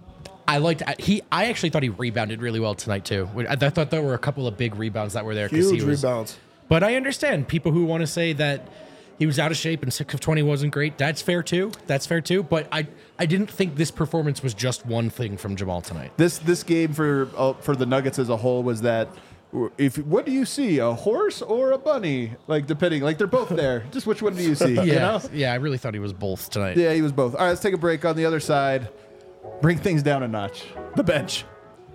I actually thought he rebounded really well tonight too. I thought there were a couple of big rebounds that were there. Huge rebounds. But I understand people who want to say that he was out of shape and 6 of 20 wasn't great. That's fair too. But I didn't think this performance was just one thing from Jamal tonight. This game for the Nuggets as a whole was that. What do you see, a horse or a bunny? Like depending, like they're both there. Just which one do you see? Yeah, I really thought he was both tonight. Yeah, he was both. All right, let's take a break. On the other side, bring things down a notch. The bench.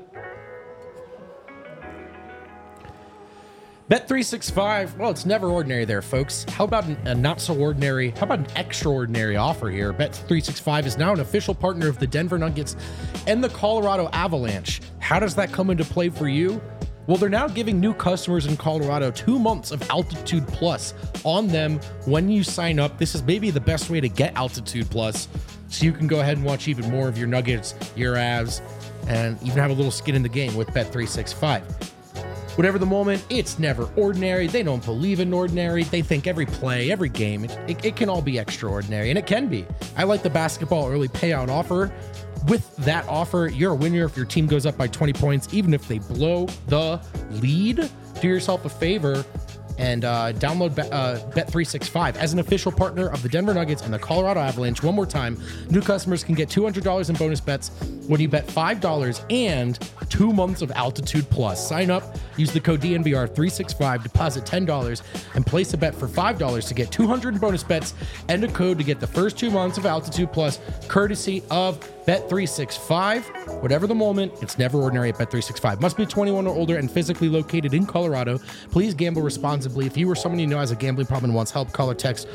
Bet365, well, it's never ordinary there, folks. How about a not so ordinary, how about an extraordinary offer here? Bet365 is now an official partner of the Denver Nuggets and the Colorado Avalanche. How does that come into play for you? Well, they're now giving new customers in Colorado 2 months of Altitude Plus on them when you sign up. This is maybe the best way to get Altitude Plus, so you can go ahead and watch even more of your Nuggets, your Avs, and even have a little skin in the game with Bet365. Whatever the moment, it's never ordinary. They don't believe in ordinary. They think every play, every game, it can all be extraordinary, and it can be. I like the basketball early payout offer. With that offer, you're a winner if your team goes up by 20 points, even if they blow the lead. Do yourself a favor and download Bet365 as an official partner of the Denver Nuggets and the Colorado Avalanche. One more time, new customers can get $200 in bonus bets when you bet $5 and 2 months of Altitude Plus. Sign up, use the code DNVR365, deposit $10, and place a bet for $5 to get $200 in bonus bets and a code to get the first 2 months of Altitude Plus, courtesy of Bet365. Whatever the moment, it's never ordinary at Bet365. Must be 21 or older and physically located in Colorado. Please gamble responsibly. If you or someone you know has a gambling problem and wants help, call or text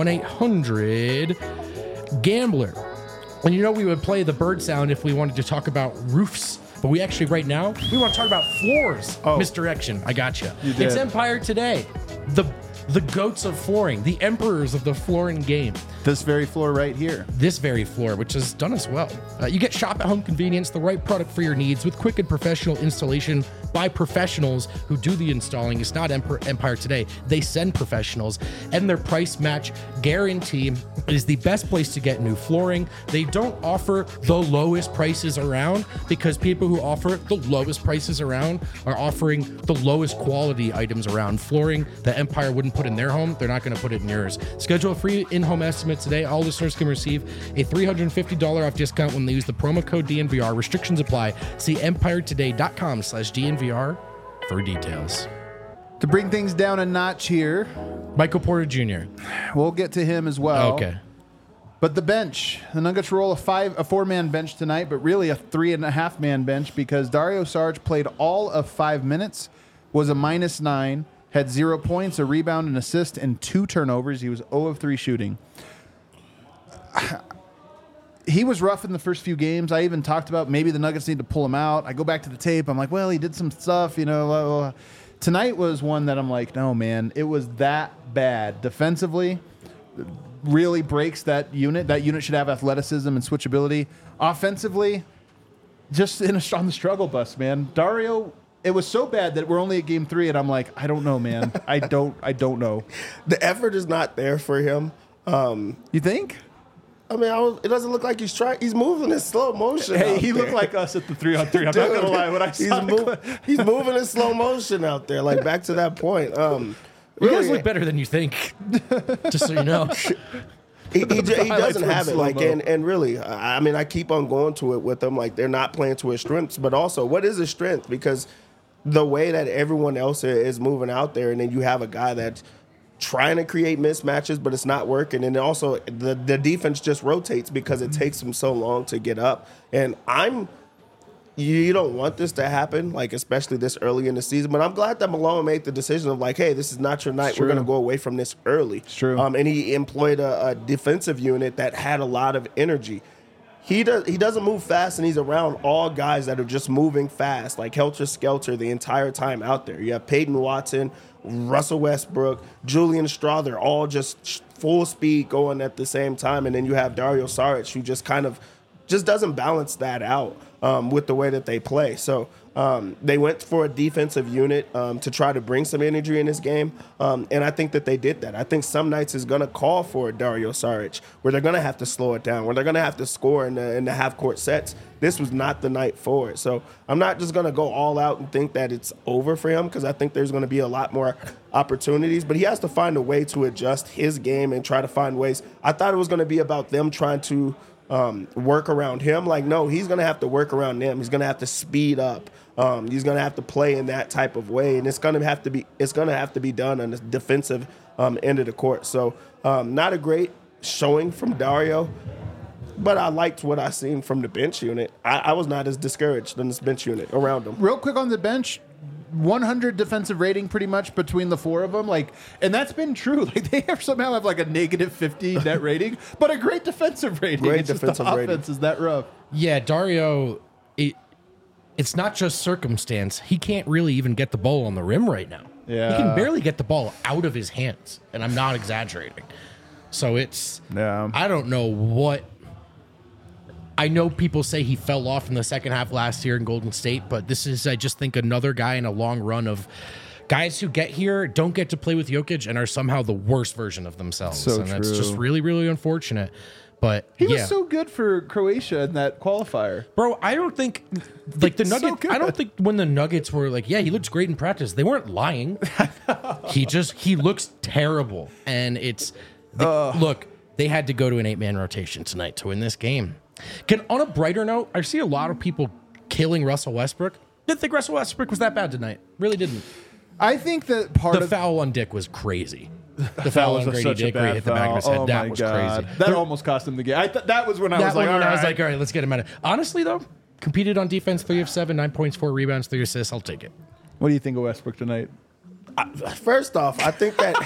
1-800-GAMBLER. And we would play the bird sound if we wanted to talk about roofs. But we actually, right now, we want to talk about floors. Misdirection. I gotcha. It's Empire Today. The goats of flooring, the emperors of the flooring game. This very floor right here. This very floor, which has done us well. You get shop at home convenience, the right product for your needs with quick and professional installation by professionals who do the installing. It's not Empire Today. They send professionals, and their price match guarantee is the best place to get new flooring. They don't offer the lowest prices around because people who offer the lowest prices around are offering the lowest quality items around. Flooring that Empire wouldn't put in their home, they're not going to put it in yours. Schedule a free in-home estimate today. All listeners can receive a $350 off discount when they use the promo code DNVR. Restrictions apply. See empiretoday.com/DNVR for details. To bring things down a notch here, Michael Porter Jr. We'll get to him as well. Okay. But the bench, the Nuggets roll a 4-man bench tonight, but really a 3.5-man bench because Dario Saric played all of 5 minutes, was a -9, had 0 points, a rebound, an assist, and 2 turnovers. He was 0 of 3 shooting. He was rough in the first few games. I even talked about maybe the Nuggets need to pull him out. I go back to the tape. I'm like, well, he did some stuff, you know. Blah, blah, blah. Tonight was one that I'm like, no, man, it was that bad. Defensively, really breaks that unit. That unit should have athleticism and switchability. Offensively, just on the struggle bus, man. Dario, it was so bad that we're only at game 3, and I'm like, I don't know, man. I don't know. The effort is not there for him. You think? I mean, it doesn't look like he's trying. He's moving in slow motion. Hey, he there. looked like us at the 3-on-3. I'm not gonna lie. When I saw he's moving in slow motion out there. Like back to that point. You guys look better than you think. Just so you know. He doesn't have it. Like and really, I mean, I keep on going to it with him. Like they're not playing to his strengths, but also what is his strength? Because the way that everyone else is moving out there, and then you have a guy that's trying to create mismatches, but it's not working. And also the defense just rotates because it takes them so long to get up. And you don't want this to happen, like especially this early in the season. But I'm glad that Malone made the decision of like, hey, this is not your night. We're going to go away from this early. It's true. And he employed a defensive unit that had a lot of energy. He doesn't move fast, and he's around all guys that are just moving fast, like helter-skelter the entire time out there. You have Peyton Watson, Russell Westbrook, Julian Straw. They're all just full speed going at the same time. And then you have Dario Saric, who just kind of just doesn't balance that out with the way that they play. So they went for a defensive unit to try to bring some energy in this game. And I think that they did that. I think some nights is going to call for Dario Saric, where they're going to have to slow it down, where they're going to have to score in the half-court sets. This was not the night for it. So I'm not just going to go all out and think that it's over for him, because I think there's going to be a lot more opportunities. But he has to find a way to adjust his game and try to find ways. I thought it was going to be about them trying to work around him. Like, no, he's going to have to work around them. He's going to have to speed up. He's going to have to play in that type of way, and it's going to have to be done on the defensive end of the court. So not a great showing from Dario, but I liked what I seen from the bench unit. I was not as discouraged than this bench unit around him. Real quick on the bench, 100 defensive rating pretty much between the 4 of them. Like, and that's been true. Like they somehow have like a -50 net rating, but a great defensive rating. Great it's defensive just the rating. offense is that rough. Yeah, Dario, it's not just circumstance. He can't really even get the ball on the rim right now. Yeah. He can barely get the ball out of his hands, and I'm not exaggerating. So I don't know what. I know people say he fell off in the second half last year in Golden State, but this is, I just think, another guy in a long run of guys who get here, don't get to play with Jokic, and are somehow the worst version of themselves. So and that's just really, really unfortunate. But he was so good for Croatia in that qualifier. Bro, I don't think like the So Nuggets. good. I don't think when the Nuggets were like, yeah, he looks great in practice. They weren't lying. he looks terrible, and look. They had to go to an 8-man rotation tonight to win this game. On a brighter note, I see a lot of people killing Russell Westbrook. Didn't think Russell Westbrook was that bad tonight. Really didn't. I think that The foul on Dick was crazy. The foul on Grady Dick where he hit the back of his head. That was crazy. That almost cost him the game. That was when I was like, all right, let's get him out of it. Honestly, though, competed on defense, 3 of 7, 9 points, 4 rebounds, 3 assists. I'll take it. What do you think of Westbrook tonight? First off, I think that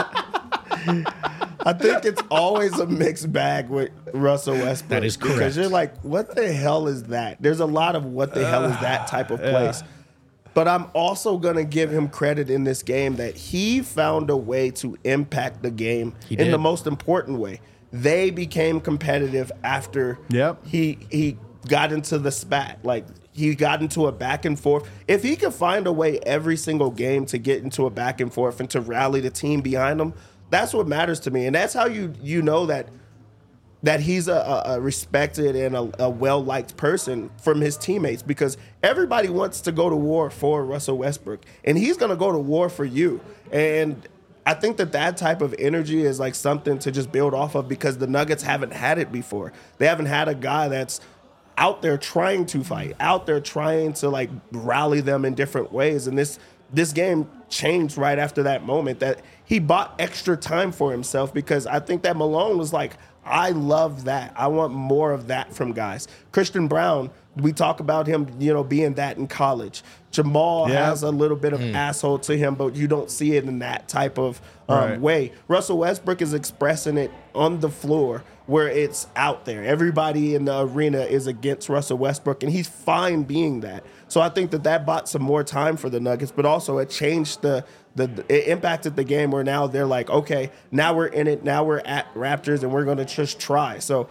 I think it's always a mixed bag with Russell Westbrook. That is correct. Because you're like, what the hell is that? There's a lot of what the hell is that type of place. But I'm also going to give him credit in this game that he found a way to impact the game in the most important way. They became competitive after he got into the spat. Like, he got into a back and forth. If he could find a way every single game to get into a back and forth and to rally the team behind him, that's what matters to me. And that's how you know that he's a respected and a well-liked person from his teammates, because everybody wants to go to war for Russell Westbrook, and he's going to go to war for you. And I think that type of energy is like something to just build off of, because the Nuggets haven't had it before. They haven't had a guy that's out there trying to fight, out there trying to like rally them in different ways. And this game changed right after that moment, that he bought extra time for himself, because I think that Malone was like, I love that. I want more of that from guys. Christian Brown, we talk about him, being that in college. Jamal has a little bit of asshole to him, but you don't see it in that type of way. Russell Westbrook is expressing it on the floor where it's out there. Everybody in the arena is against Russell Westbrook, and he's fine being that. So I think that bought some more time for the Nuggets, but also it changed it impacted the game, where now they're like, okay, now we're in it. Now we're at Raptors, and we're going to just try. So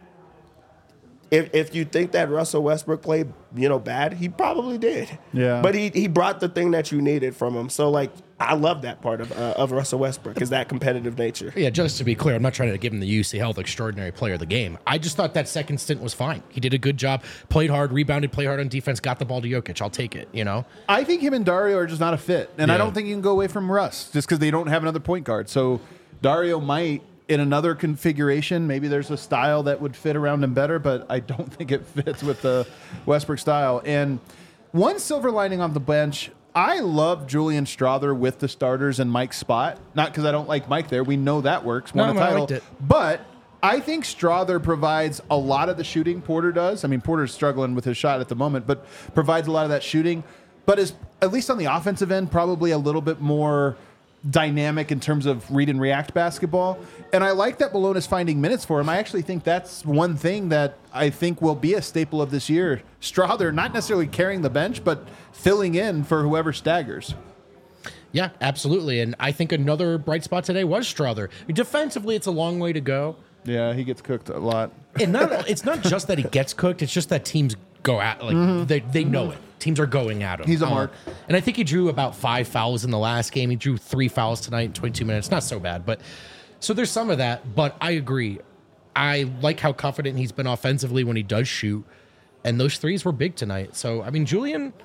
if you think that Russell Westbrook played, bad, he probably did. Yeah. But he brought the thing that you needed from him. So, like, I love that part of Russell Westbrook, is that competitive nature. Yeah, just to be clear, I'm not trying to give him the UC Health Extraordinary Player of the Game. I just thought that second stint was fine. He did a good job, played hard, rebounded, played hard on defense, got the ball to Jokic. I'll take it, I think him and Dario are just not a fit. And I don't think you can go away from Russ just because they don't have another point guard. So Dario might, in another configuration, maybe there's a style that would fit around him better, but I don't think it fits with the Westbrook style. And one silver lining on the bench, I love Julian Strawther with the starters and Mike's spot. Not because I don't like Mike there. We know that works. Won a title. I liked it. But I think Strawther provides a lot of the shooting Porter does. I mean, Porter's struggling with his shot at the moment, but provides a lot of that shooting. But is, at least on the offensive end, probably a little bit more dynamic in terms of read and react basketball. And I like that Malone is finding minutes for him. I actually think that's one thing that I think will be a staple of this year. Strawther, not necessarily carrying the bench, but filling in for whoever staggers. Yeah, absolutely. And I think another bright spot today was Strawther. Defensively, it's a long way to go. Yeah, he gets cooked a lot. And it's not just that he gets cooked, it's just that teams go at, they know it. Teams are going at him. He's a mark. And I think he drew about 5 fouls in the last game. He drew 3 fouls tonight in 22 minutes. Not so bad. But so there's some of that. But I agree. I like how confident he's been offensively when he does shoot. And those threes were big tonight. So, I mean,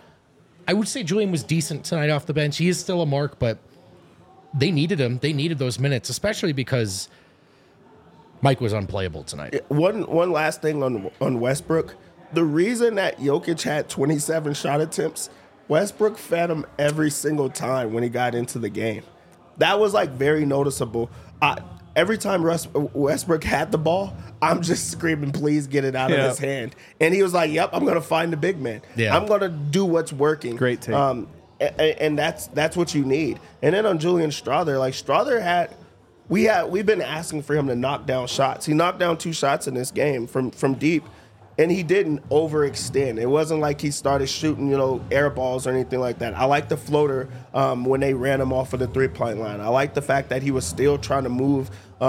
I would say Julian was decent tonight off the bench. He is still a mark, but they needed him. They needed those minutes, especially because Mike was unplayable tonight. One last thing on Westbrook. The reason that Jokic had 27 shot attempts, Westbrook fed him every single time when he got into the game. That was like very noticeable. Every time Westbrook had the ball, I'm just screaming, please get it out of his hand. And he was like, yep, I'm going to find the big man. Yeah. I'm going to do what's working. Great take. And that's what you need. And then on Julian Strawther, like Strawther we've been asking for him to knock down shots. He knocked down 2 shots in this game from deep. And he didn't overextend. It wasn't like he started shooting, air balls or anything like that. I like the floater when they ran him off of the 3-point line. I like the fact that he was still trying to move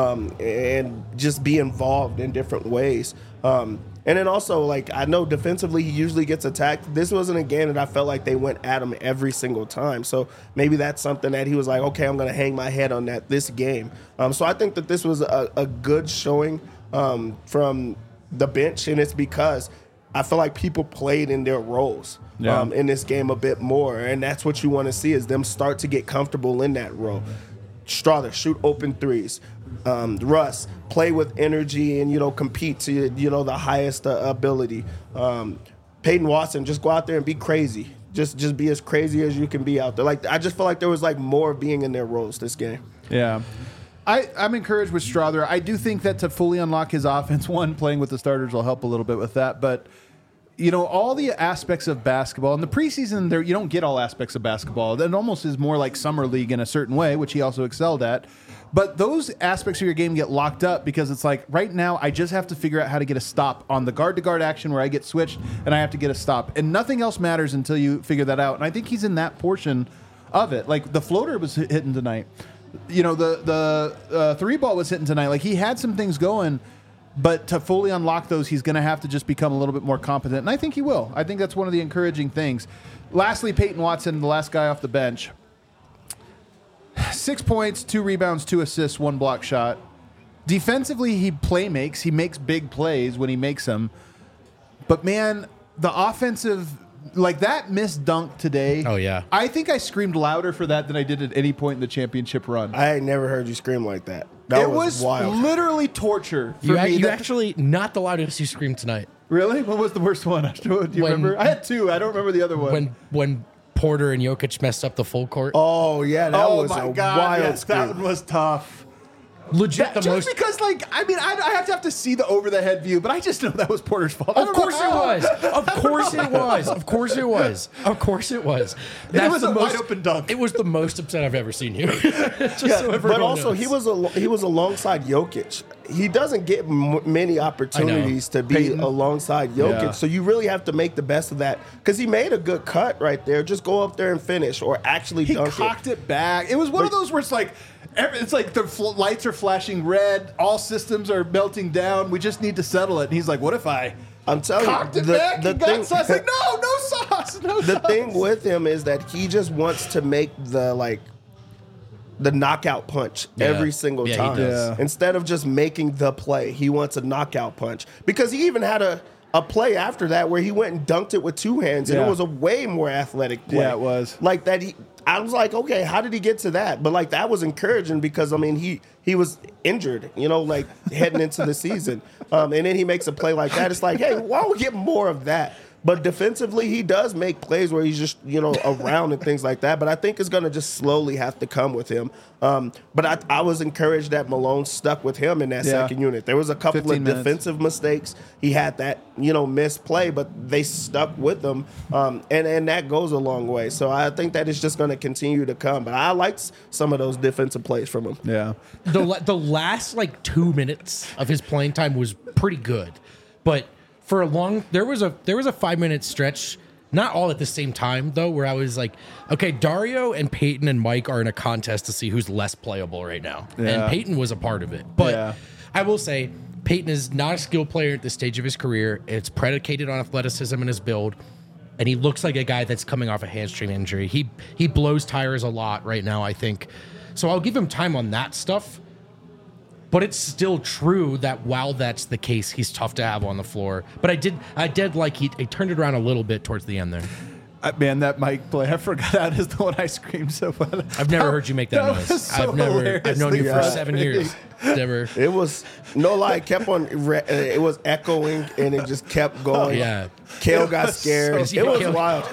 and just be involved in different ways. And then also, like, I know defensively he usually gets attacked. This wasn't a game that I felt like they went at him every single time. So maybe that's something that he was like, okay, I'm going to hang my head on this game. So I think that this was a good showing from the bench, and it's because I feel like people played in their roles in this game a bit more, and that's what you want to see is them start to get comfortable in that role. Strawther, shoot open threes. Russ, play with energy and, compete to, the highest ability. Peyton Watson, just go out there and be crazy. Just be as crazy as you can be out there. Like, I just feel like there was like more being in their roles this game. Yeah. I'm encouraged with Strawther. I do think that to fully unlock his offense, playing with the starters will help a little bit with that. But, all the aspects of basketball, in the preseason, you don't get all aspects of basketball. It almost is more like summer league in a certain way, which he also excelled at. But those aspects of your game get locked up because it's like, right now, I just have to figure out how to get a stop on the guard-to-guard action where I get switched and I have to get a stop. And nothing else matters until you figure that out. And I think he's in that portion of it. Like, the floater was hitting tonight. The 3-ball was hitting tonight. Like, he had some things going, But to fully unlock those, he's going to have to just become a little bit more competent. And I think he will. I think that's one of the encouraging things. Lastly, Peyton Watson, the last guy off the bench. 6 points, 2 rebounds, 2 assists, 1 block shot. Defensively, he makes. He makes big plays when he makes them. But, man, the offensive... Like that missed dunk today. Oh, yeah. I think I screamed louder for that than I did at any point in the championship run. I ain't never heard you scream like that. That was wild. Literally torture for me. You actually not the loudest you screamed tonight. Really? What was the worst one? Do you remember? I had 2. I don't remember the other one. When Porter and Jokic messed up the full court. Oh, yeah. That was a wild scream. That one was tough. Legit, Because, like, I mean, I have to see the over-the-head view, but I just know that was Porter's fault. Of course it was. Of course it was. Of course it was. Of course it was. It was a wide-open dunk. It was the most upset I've ever seen you. But also, he was alongside Jokic. He doesn't get many opportunities to be alongside Jokic, so you really have to make the best of that. Because he made a good cut right there. Just go up there and finish, or actually dunk it. He cocked it back. It was one of those where it's like the lights are flashing red, all systems are melting down. We just need to settle it. And he's like, "What if I'm telling cocked you, it back and got sauce?" Like, no sauce. The thing with him is that he just wants to make the knockout punch every single time. He does. Instead of just making the play, he wants a knockout punch. Because he even had a play after that where he went and dunked it with 2 hands, and it was a way more athletic play. Yeah, it was. Like that. I was like, okay, how did he get to that? But like that was encouraging because I mean he was injured, like heading into the season, and then he makes a play like that. It's like, hey, why don't we get more of that? But defensively, he does make plays where he's just, around and things like that. But I think it's going to just slowly have to come with him. But I was encouraged that Malone stuck with him in that second unit. There was a couple of defensive mistakes. He had that, missed play, but they stuck with him. And that goes a long way. So I think that it's just going to continue to come. But I liked some of those defensive plays from him. Yeah. The last 2 minutes of his playing time was pretty good, but for there was a 5-minute stretch, not all at the same time though, where I was like, okay, Dario and Peyton and Mike are in a contest to see who's less playable right now, and Peyton was a part of it. But I will say, Peyton is not a skill player at this stage of his career. It's predicated on athleticism and his build, and he looks like a guy that's coming off a hamstring injury. He blows tires a lot right now, I think. So I'll give him time on that stuff. But it's still true that while that's the case, he's tough to have on the floor. But I did like he turned it around a little bit towards the end there. Man, that Mike play, I forgot that is the one I screamed so much. I've never heard you make that noise. I've known you for 7 years. Never. It was, no lie, it kept on, it was echoing and it just kept going. Yeah. Kale got scared. It was wild.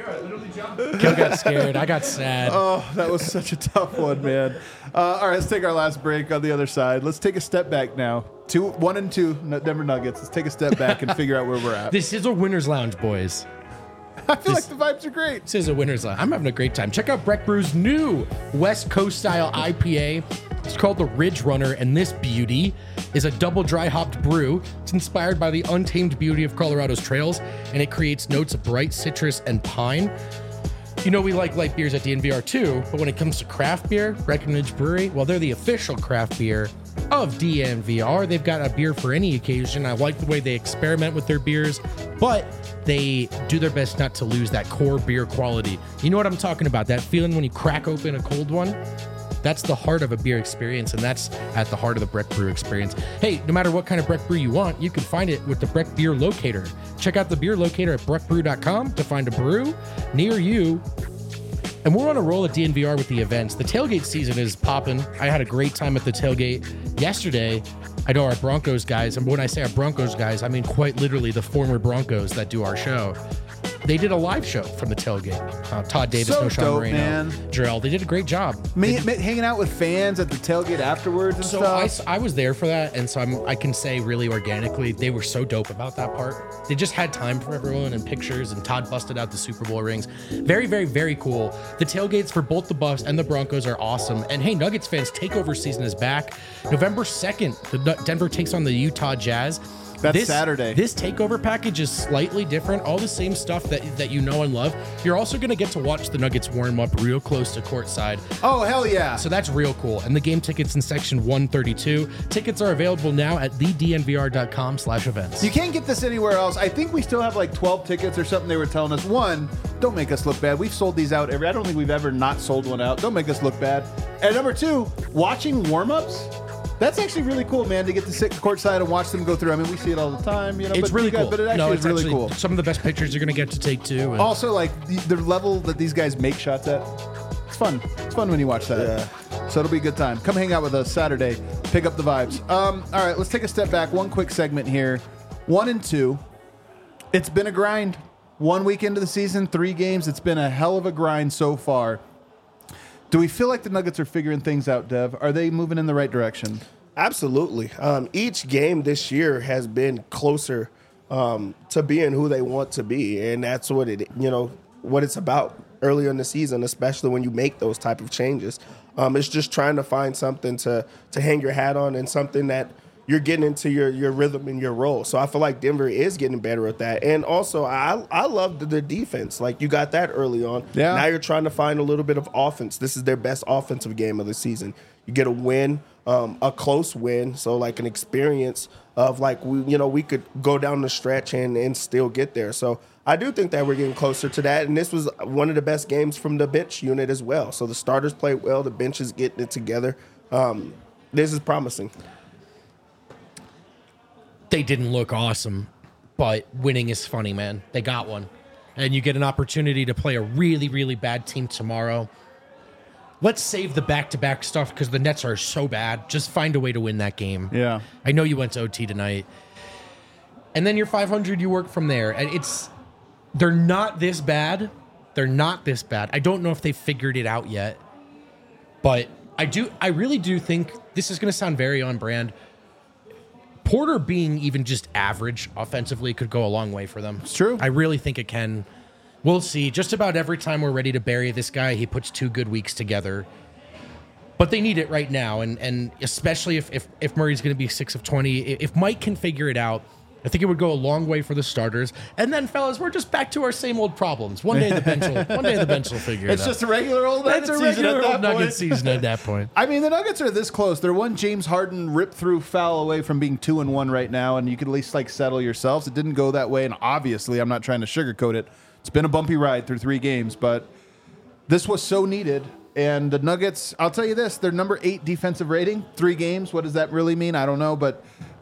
Kale got scared. I got sad. Oh, that was such a tough one, man. All right, let's take our last break on the other side. Let's take a step back now. 1 and 2, Denver Nuggets. Let's take a step back and figure out where we're at. This is a winner's lounge, boys. I feel like the vibes are great. This is a winner's lounge. I'm having a great time. Check out Breck Brew's new West Coast style IPA. It's called the Ridge Runner, and this beauty is a double dry hopped brew. It's inspired by the untamed beauty of Colorado's trails, and it creates notes of bright citrus and pine. We like light beers at DNVR too, but when it comes to craft beer, Breckenridge Brewery, well, they're the official craft beer of DNVR. They've got a beer for any occasion. I like the way they experiment with their beers, but they do their best not to lose that core beer quality. You know what I'm talking about? That feeling when you crack open a cold one? That's the heart of a beer experience, and that's at the heart of the Breck Brew experience. Hey, no matter what kind of Breck Brew you want, you can find it with the Breck Beer Locator. Check out the beer locator at breckbrew.com to find a brew near you. And we're on a roll at DNVR with the events. The tailgate season is popping. I had a great time at the tailgate yesterday. I know our Broncos guys, and when I say our Broncos guys, I mean quite literally the former Broncos that do our show. They did a live show from the tailgate. Todd Davis, So Noshawn dope, Moreno, man. Jarrell. They did a great job. Hanging out with fans at the tailgate afterwards and So stuff. I was there for that, and so I can say really organically, they were so dope about that part. They just had time for everyone and pictures, and Todd busted out the Super Bowl rings. Very, very, very cool. The tailgates for both the Buffs and the Broncos are awesome. And hey, Nuggets fans, takeover season is back. November 2nd, Denver takes on the Utah Jazz. That's Saturday. This takeover package is slightly different. All the same stuff that you know and love. You're also going to get to watch the Nuggets warm up real close to courtside. Oh, hell yeah. So that's real cool. And the game tickets in section 132. Tickets are available now at thednvr.com/events. You can't get this anywhere else. I think we still have like 12 tickets or something they were telling us. One, don't make us look bad. We've sold these out I don't think we've ever not sold one out. Don't make us look bad. And number two, watching warm-ups. That's actually really cool, man, to get to sit courtside and watch them go through. I mean, we see it all the time, you know. It's really cool. But it actually is really cool. Some of the best pictures you're going to get to take, too. And also, like, the level that these guys make shots at, it's fun. It's fun when you watch that. Yeah. So it'll be a good time. Come hang out with us Saturday. Pick up the vibes. All right, let's take a step back. One quick segment here. 1 and 2. It's been a grind. 1 week into the season, 3 games. It's been a hell of a grind so far. Do we feel like the Nuggets are figuring things out, Dev? Are they moving in the right direction? Absolutely. Each game this year has been closer to being who they want to be, and that's what what it's about earlier in the season, especially when you make those type of changes. It's just trying to find something to hang your hat on and something that you're getting into your rhythm and your role. So I feel like Denver is getting better at that. And also, I love the defense. Like, you got that early on. Yeah. Now you're trying to find a little bit of offense. This is their best offensive game of the season. You get a win, a close win, so like an experience of like, we could go down the stretch and still get there. So I do think that we're getting closer to that. And this was one of the best games from the bench unit as well. So the starters played well. The bench is getting it together. This is promising. they didn't look awesome, but winning is funny, man. They got one. And you get an opportunity to play a really, really bad team tomorrow. Let's save the back-to-back stuff because the Nets are so bad. Just find a way to win that game. Yeah. I know you went to OT tonight. And then you're 500, you work from there. And they're not this bad. They're not this bad. I don't know if they've figured it out yet. But I really do think this is going to sound very on brand. Porter being even just average offensively could go a long way for them. It's true. I really think it can. We'll see. Just about every time we're ready to bury this guy, he puts 2 good weeks together. But they need it right now, and especially if Murray's going to be 6 of 20, if Mike can figure it out, I think it would go a long way for the starters. And then, fellas, we're just back to our same old problems. One day the bench will figure it out. It's just a regular old Nuggets season. It's a regular at that old Nuggets point. season at that point. I mean, the Nuggets are this close. They're one James Harden rip-through foul away from being 2-1 right now, and you could at least settle yourselves. It didn't go that way, and obviously, I'm not trying to sugarcoat it. It's been a bumpy ride through 3 games, but this was so needed. And the Nuggets, I'll tell you this, they're number 8 defensive rating, 3 games. What does that really mean? I don't know, but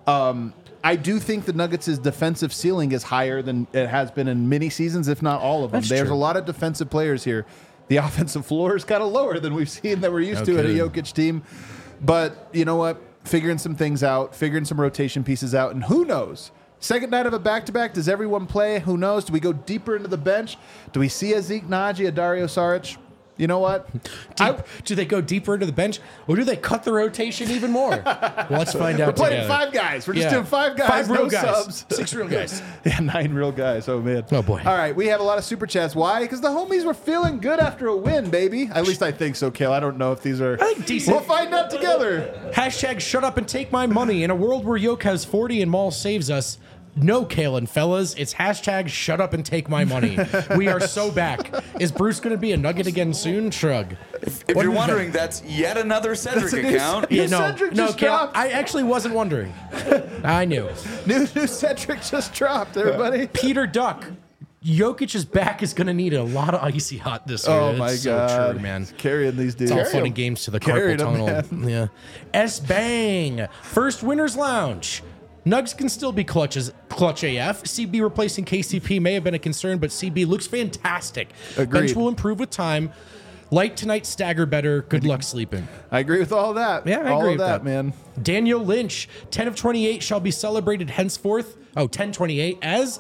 I do think the Nuggets' defensive ceiling is higher than it has been in many seasons, if not all of them. That's There's true. a lot of defensive players here. The offensive floor is kind of lower than we've seen that we're used to at a Jokic team. But you know what? Figuring some things out, figuring some rotation pieces out, and who knows? Second night of a back-to-back, does everyone play? Who knows? Do we go deeper into the bench? Do we see a Zeke Naji, a Dario Saric? You know what? Do they go deeper into the bench, or do they cut the rotation even more? Well, let's find out. We're playing together. 5 guys. We're just doing 5 guys, 5 real no guys, subs. 6 real guys. Yeah, 9 real guys. Oh, man. Oh, boy. All right, we have a lot of super chats. Why? Because the homies were feeling good after a win, baby. At least I think so, Kale. I don't know if these are... I think decent. We'll find out together. Hashtag shut up and take my money. In a world where Yoke has 40 and Maul saves us, no, Kalen, fellas. It's hashtag shut up and take my money. We are so back. Is Bruce going to be a Nugget again soon? Shrug. If you're wondering, that's yet another Cedric account. New Cedric just Kale, dropped. I actually wasn't wondering. I knew. New Cedric just dropped, everybody. Peter Duck. Jokic's back is going to need a lot of icy hot this year. Oh, It's my so God. true, man. Carrying these dudes. It's all fun and games to the Carried carpal 'em, tunnel. Yeah. S-Bang. First Winners Lounge. Nugs can still be clutch AF. CB replacing KCP may have been a concern, but CB looks fantastic. Agreed. Bench will improve with time. Light tonight, stagger better. Good luck sleeping. I agree with all that. Yeah, I all agree of with that, that. man. Daniel Lynch, 10 of 28 shall be celebrated henceforth. 10-28 as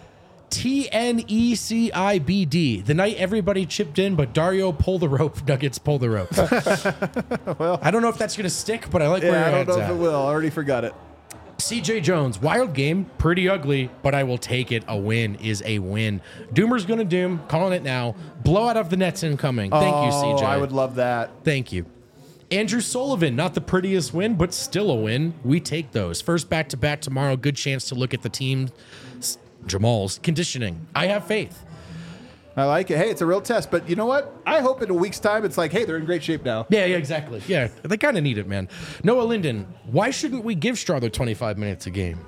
TNECIBD. The night everybody chipped in, but Dario pull the rope. Nuggets pull the rope. Well, I don't know if that's going to stick, but I like where Yeah, your I don't head's know if at. it will. I already forgot it. CJ Jones, wild game, pretty ugly, but I will take it. A win is a win. Doomer's going to doom, calling it now. Blowout of the Nets incoming. Thank you, CJ. I would love that. Thank you. Andrew Sullivan, not the prettiest win, but still a win. We take those. First back-to-back tomorrow. Good chance to look at the team, Jamal's conditioning. I have faith. I like it. Hey, it's a real test. But you know what? I hope in a week's time it's like, hey, they're in great shape now. Yeah, exactly. Yeah, they kind of need it, man. Noah Linden, why shouldn't we give Strother 25 minutes a game?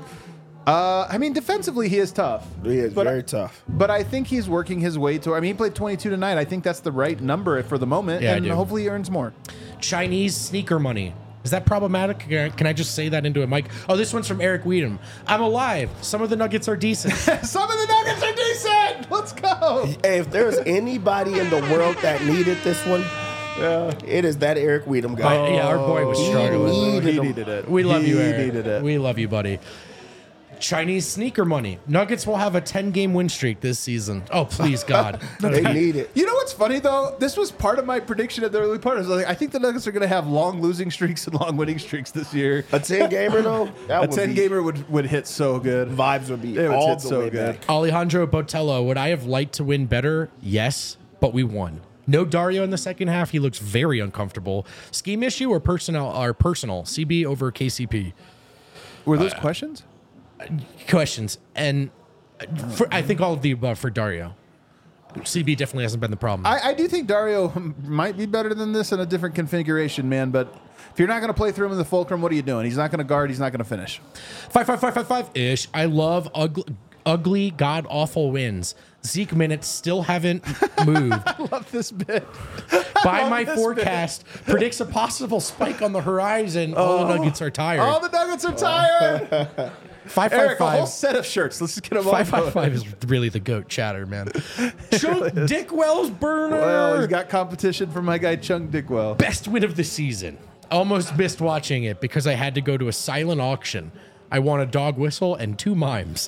I mean, defensively, he is tough. He is very tough. But I think he's working his way to. I mean, he played 22 tonight. I think that's the right number for the moment. Yeah, and I do. hopefully he earns more. Chinese sneaker money. Is that problematic? Can I just say that into a mic? Oh, this one's from Eric Weedham. I'm alive. Some of the Nuggets are decent. Some of the Nuggets are decent. Let's go. Hey, if there's anybody in the world that needed this one, it is that Eric Weedham guy. Yeah, our boy was struggling. He needed it. We love you, He Eric. needed it. We love you, buddy. Chinese sneaker money. Nuggets will have a 10-game win streak this season. Oh, please, God. They need it. You know what's funny though? This was part of my prediction at the early part. I was like, I think the Nuggets are going to have long losing streaks and long winning streaks this year. A 10-gamer, though? A 10-gamer would hit so good. Vibes would be It would all hit the so way good. back. Alejandro Botello, would I have liked to win better? Yes, but we won. No Dario in the second half. He looks very uncomfortable. Scheme issue or personal? CB over KCP. Were those questions? Questions. And I think all of the above for Dario. CB definitely hasn't been the problem. I do think Dario might be better than this in a different configuration, man. But if you're not going to play through him in the fulcrum, what are you doing? He's not going to guard. He's not going to finish. 5-5-5-5-5-ish. I love ugly, god-awful wins. Zeke minutes still haven't moved. I love this bit. By love my this forecast, predicts a possible spike on the horizon. All the Nuggets are tired. All the Nuggets are tired. Eric, a whole 5-5-5. set of shirts. Let's just get them all. 5-5-5 is really the GOAT chatter, man. Chunk Dickwell's burner. Well, he's got competition from my guy Chunk Dickwell. Best win of the season. Almost missed watching it because I had to go to a silent auction. I won a dog whistle and 2 mimes.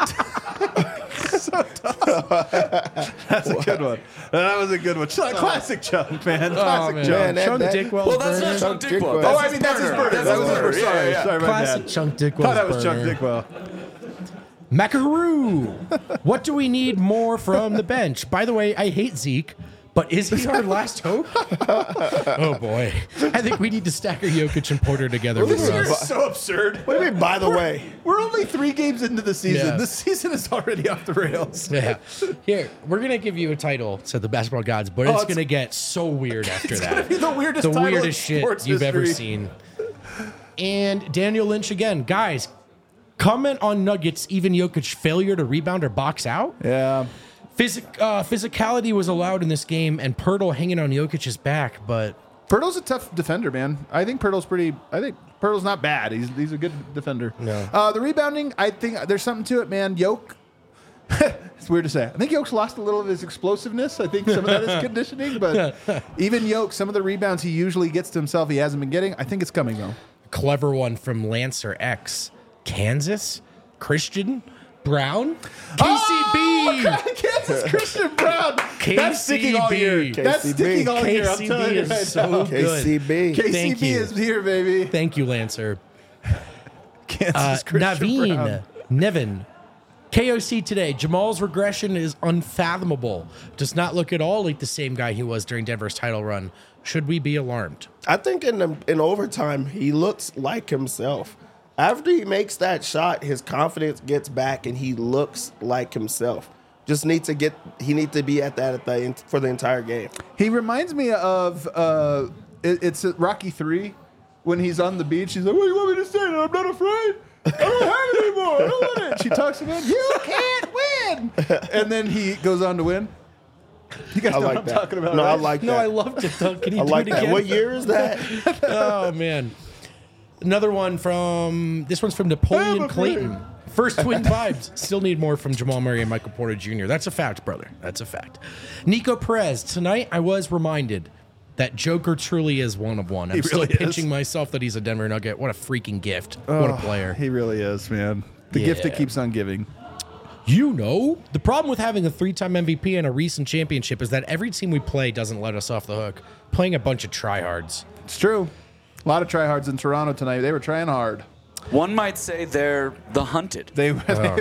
That's a good one. That was a good one. Classic Chunk, man. Classic man. Chunk. Man, Chunk that- Dickwell's Well, that's burner. not Chunk Chunk Dickwell. Dickwell. Oh, I mean, that's his burner. That was his burner. Sorry, Yeah. sorry, my Classic bad. Chunk Dickwell's Thought that was burner. Chunk Dickwell. Macaroon. What do we need more from the bench? By the way, I hate Zeke, but is he our last hope? Oh, boy. I think we need to stagger Jokic and Porter together with This year Russ. is so absurd. What do you mean, by the way? We're only 3 games into the season. Yeah. This season is already off the rails. Yeah. Here, we're going to give you a title to the basketball gods, but it's it's- going to get so weird after that. Be the weirdest The title in weirdest shit sports you've ever history. seen. And Daniel Lynch again. Guys, comment on Nuggets, even Jokic failure to rebound or box out. Yeah. Physicality was allowed in this game, and Pirtle hanging on Jokic's back, but Pirtle's a tough defender, man. I think Pirtle's not bad. He's a good defender. No. The rebounding, I think there's something to it, man. Yoke, it's weird to say. I think Yoke's lost a little of his explosiveness. I think some of that is conditioning, but even Yoke, some of the rebounds he usually gets to himself, he hasn't been getting. I think it's coming though. clever one from Lancer X. Kansas? Christian? Brown? KCB! Kansas Christian Brown. That's sticking all year. KCB. That's sticking all year. I'm telling KCB you is right so now. good. KCB. Thank KCB you. is here, baby. Thank you, Lancer. Kansas Christian Brown. Naveen, Nevin. KOC today. Jamal's regression is unfathomable. Does not look at all like the same guy he was during Denver's title run. Should we be alarmed? I think in overtime, he looks like himself. After he makes that shot, his confidence gets back and he looks like himself. He needs to be at that for the entire game. He reminds me of it's at Rocky 3 when he's on the beach. He's like, "What do you want me to say? I'm not afraid. I don't have it anymore. I don't want it." She talks about, "You can't win," and then he goes on to win. You guys I know like what I'm that. talking about? No, I right? like No, that. I loved it, though. Can you I do like it that. again? What year is that? Oh, man. Another one this one's from Napoleon Clayton. First twin vibes. Still need more from Jamal Murray and Michael Porter Jr. That's a fact, brother. That's a fact. Nico Perez. Tonight I was reminded that Joker truly is one of one. I'm still really is. pinching myself that he's a Denver Nugget. What a freaking gift. What a player. He really is, man. The gift that Yeah. keeps on giving. You know, the problem with having a 3-time MVP and a recent championship is that every team we play doesn't let us off the hook. Playing a bunch of tryhards. It's true. A lot of tryhards in Toronto tonight. They were trying hard. One might say they're the hunted. Damn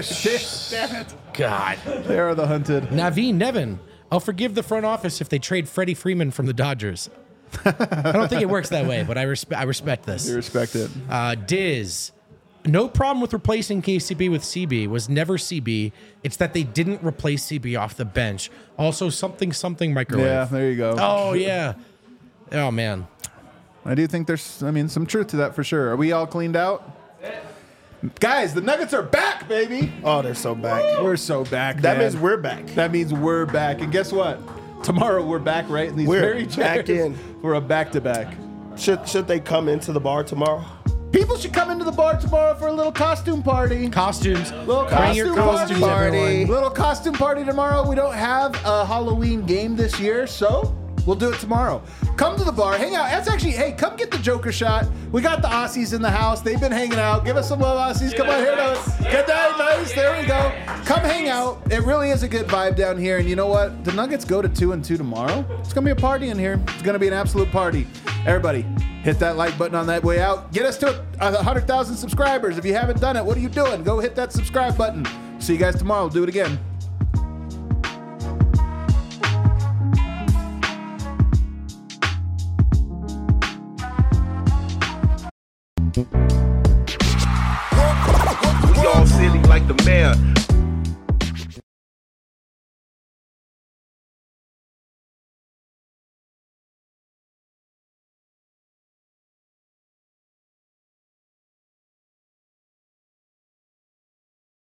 it. God. They are the hunted. Naveen, Nevin. I'll forgive the front office if they trade Freddie Freeman from the Dodgers. I don't think it works that way, but I respect this. You respect it. Diz, no problem with replacing KCB with CB. Was never CB. It's that they didn't replace CB off the bench. Also, something microwave. Yeah, there you go. Oh yeah. Oh man. I do think there's, some truth to that for sure. Are we all cleaned out? Guys, the Nuggets are back, baby. Oh, they're so back. We're so back. That man. means we're back. That means we're back. And guess what? Tomorrow we're back, right? In these We're very back chairs. in. We're a back-to-back. Should they come into the bar tomorrow? People should come into the bar tomorrow for a little costume party. Costumes. Little Bring your costume costumes, everyone. Little costume party tomorrow. We don't have a Halloween game this year, so we'll do it tomorrow. Come to the bar, hang out. That's actually, hey, come get the Joker shot. We got the Aussies in the house. They've been hanging out. Give us some love, Aussies. Come on here. Get that nice. There we go. Come hang out. It really is a good vibe down here. And you know what? The Nuggets go to 2-2 tomorrow. It's going to be a party in here. It's going to be an absolute party. Everybody, hit that like button on that way out. Get us to 100,000 subscribers. If you haven't done it, what are you doing? Go hit that subscribe button. See you guys tomorrow. We'll do it again. We all silly like the mayor.